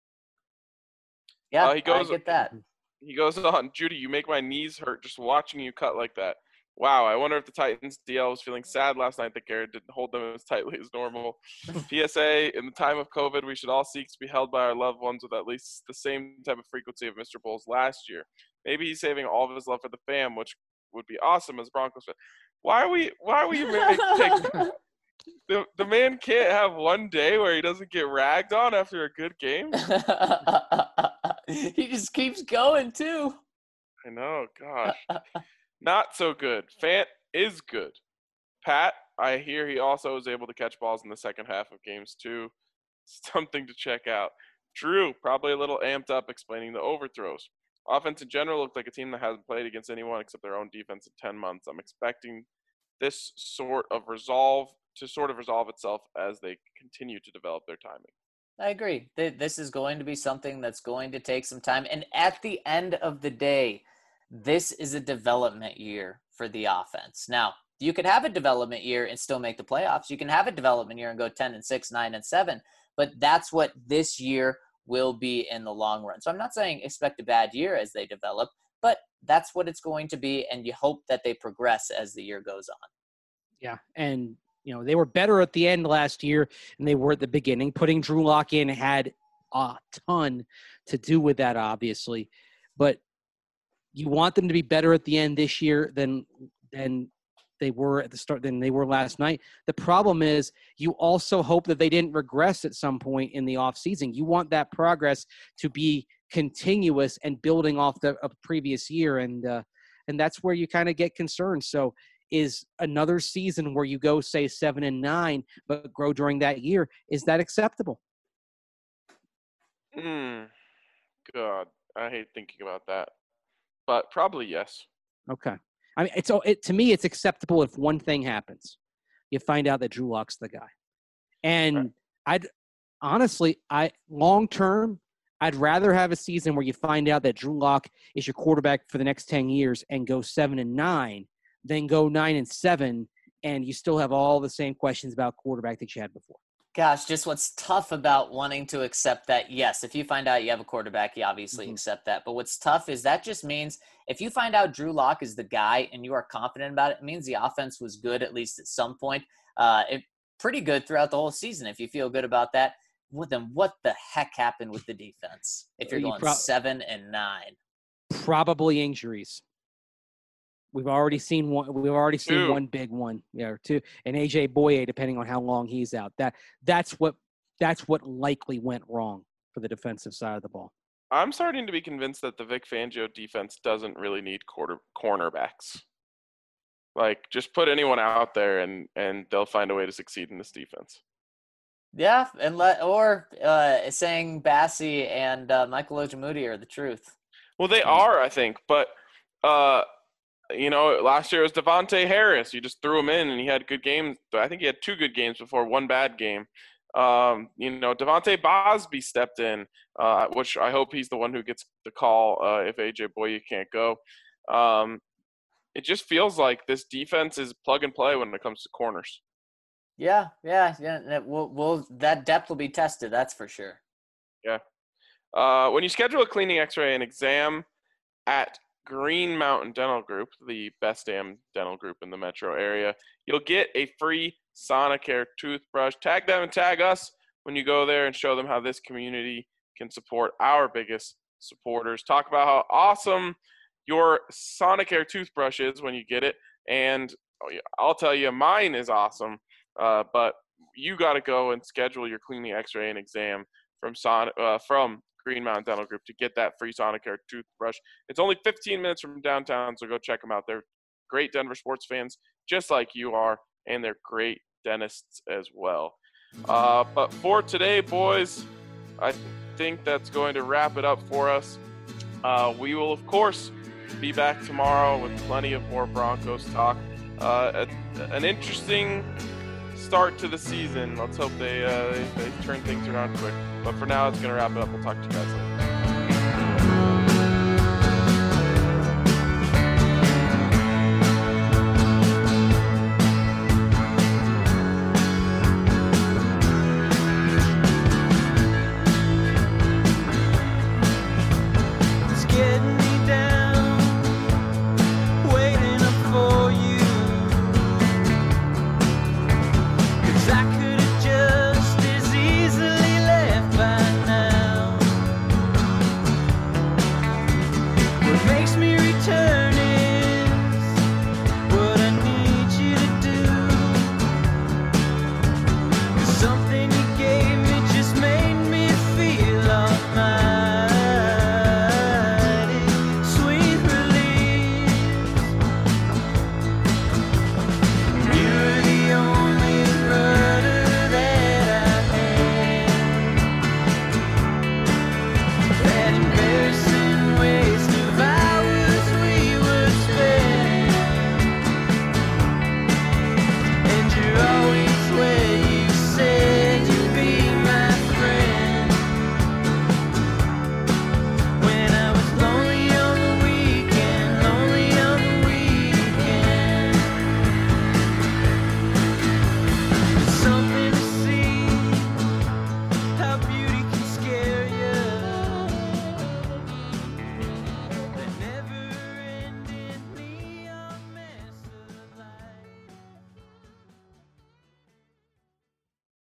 [SPEAKER 3] Yeah, I get that.
[SPEAKER 1] He goes on, Judy, you make my knees hurt just watching you cut like that. Wow, I wonder if the Titans DL was feeling sad last night that Garrett didn't hold them as tightly as normal. PSA, in the time of COVID, we should all seek to be held by our loved ones with at least the same type of frequency of Mr. Bowles last year. Maybe he's saving all of his love for the fam, which would be awesome as Broncos fan. Why are we take the man can't have one day where he doesn't get ragged on after a good game?
[SPEAKER 3] He just keeps going, too.
[SPEAKER 1] I know, gosh. Not so good. Fant is good. Pat, I hear he also is able to catch balls in the second half of games, too. Something to check out. Drew, probably a little amped up explaining the overthrows. Offense in general looked like a team that hasn't played against anyone except their own defense in 10 months. I'm expecting this sort of resolve itself as they continue to develop their timing.
[SPEAKER 3] I agree. This is going to be something that's going to take some time. And at the end of the day, this is a development year for the offense. Now, you could have a development year and still make the playoffs. You can have a development year and go 10-6, 9-7, but that's what this year will be in the long run. So I'm not saying expect a bad year as they develop, but that's what it's going to be, and you hope that they progress as the year goes on.
[SPEAKER 4] Yeah, and they were better at the end last year than they were at the beginning. Putting Drew Lock in had a ton to do with that, obviously, but you want them to be better at the end this year than they were at the start than they were last night. The problem is you also hope that they didn't regress at some point in the offseason. You want that progress to be continuous and building off the previous year, and that's where you kind of get concerned. So is another season where you go, say, 7-9, but grow during that year, is that acceptable?
[SPEAKER 1] God, I hate thinking about that. But probably yes.
[SPEAKER 4] Okay. I mean, to me, it's acceptable if one thing happens. You find out that Drew Lock's the guy. And
[SPEAKER 1] right.
[SPEAKER 4] Long term, I'd rather have a season where you find out that Drew Lock is your quarterback for the next 10 years and go 7-9 than go 9-7 and you still have all the same questions about quarterback that you had before.
[SPEAKER 3] Gosh, just what's tough about wanting to accept that, yes, if you find out you have a quarterback, you obviously accept that. But what's tough is that just means if you find out Drew Lock is the guy and you are confident about it, it means the offense was good at least at some point. Pretty good throughout the whole season. If you feel good about that, well, then what the heck happened with the defense if you're going 7-9?
[SPEAKER 4] Probably injuries. We've already seen one. We've already seen one big one, or two, and AJ Boye, depending on how long he's out. That's what likely went wrong for the defensive side of the ball.
[SPEAKER 1] I'm starting to be convinced that the Vic Fangio defense doesn't really need cornerbacks. Like, just put anyone out there, and they'll find a way to succeed in this defense.
[SPEAKER 3] Yeah, saying Bassie and Michael Ojemudia are the truth.
[SPEAKER 1] Well, they are, I think, but. Last year it was Devontae Harris. You just threw him in, and he had good games. I think he had 2 good games before one bad game. Devontae Bosby stepped in, which I hope he's the one who gets the call if AJ Boye can't go. It just feels like this defense is plug and play when it comes to corners.
[SPEAKER 3] Yeah. That depth will be tested. That's for sure.
[SPEAKER 1] Yeah. When you schedule a cleaning X-ray and exam at Green Mountain Dental Group, the best damn dental group in the metro area, you'll get a free Sonicare toothbrush. Tag them and tag us when you go there and show them how this community can support our biggest supporters. Talk about how awesome your Sonicare toothbrush is when you get it. And I'll tell you, mine is awesome. But you got to go and schedule your cleaning X-ray and exam from Green Mountain Dental Group to get that free Sonicare toothbrush. It's only 15 minutes from downtown, so go check them out. They're great Denver sports fans, just like you are, and they're great dentists as well. But for today, boys, I think that's going to wrap it up for us. We will, of course, be back tomorrow with plenty of more Broncos talk. An interesting start to the season. Let's hope they turn things around quick. But for now, it's going to wrap it up. We'll talk to you guys later.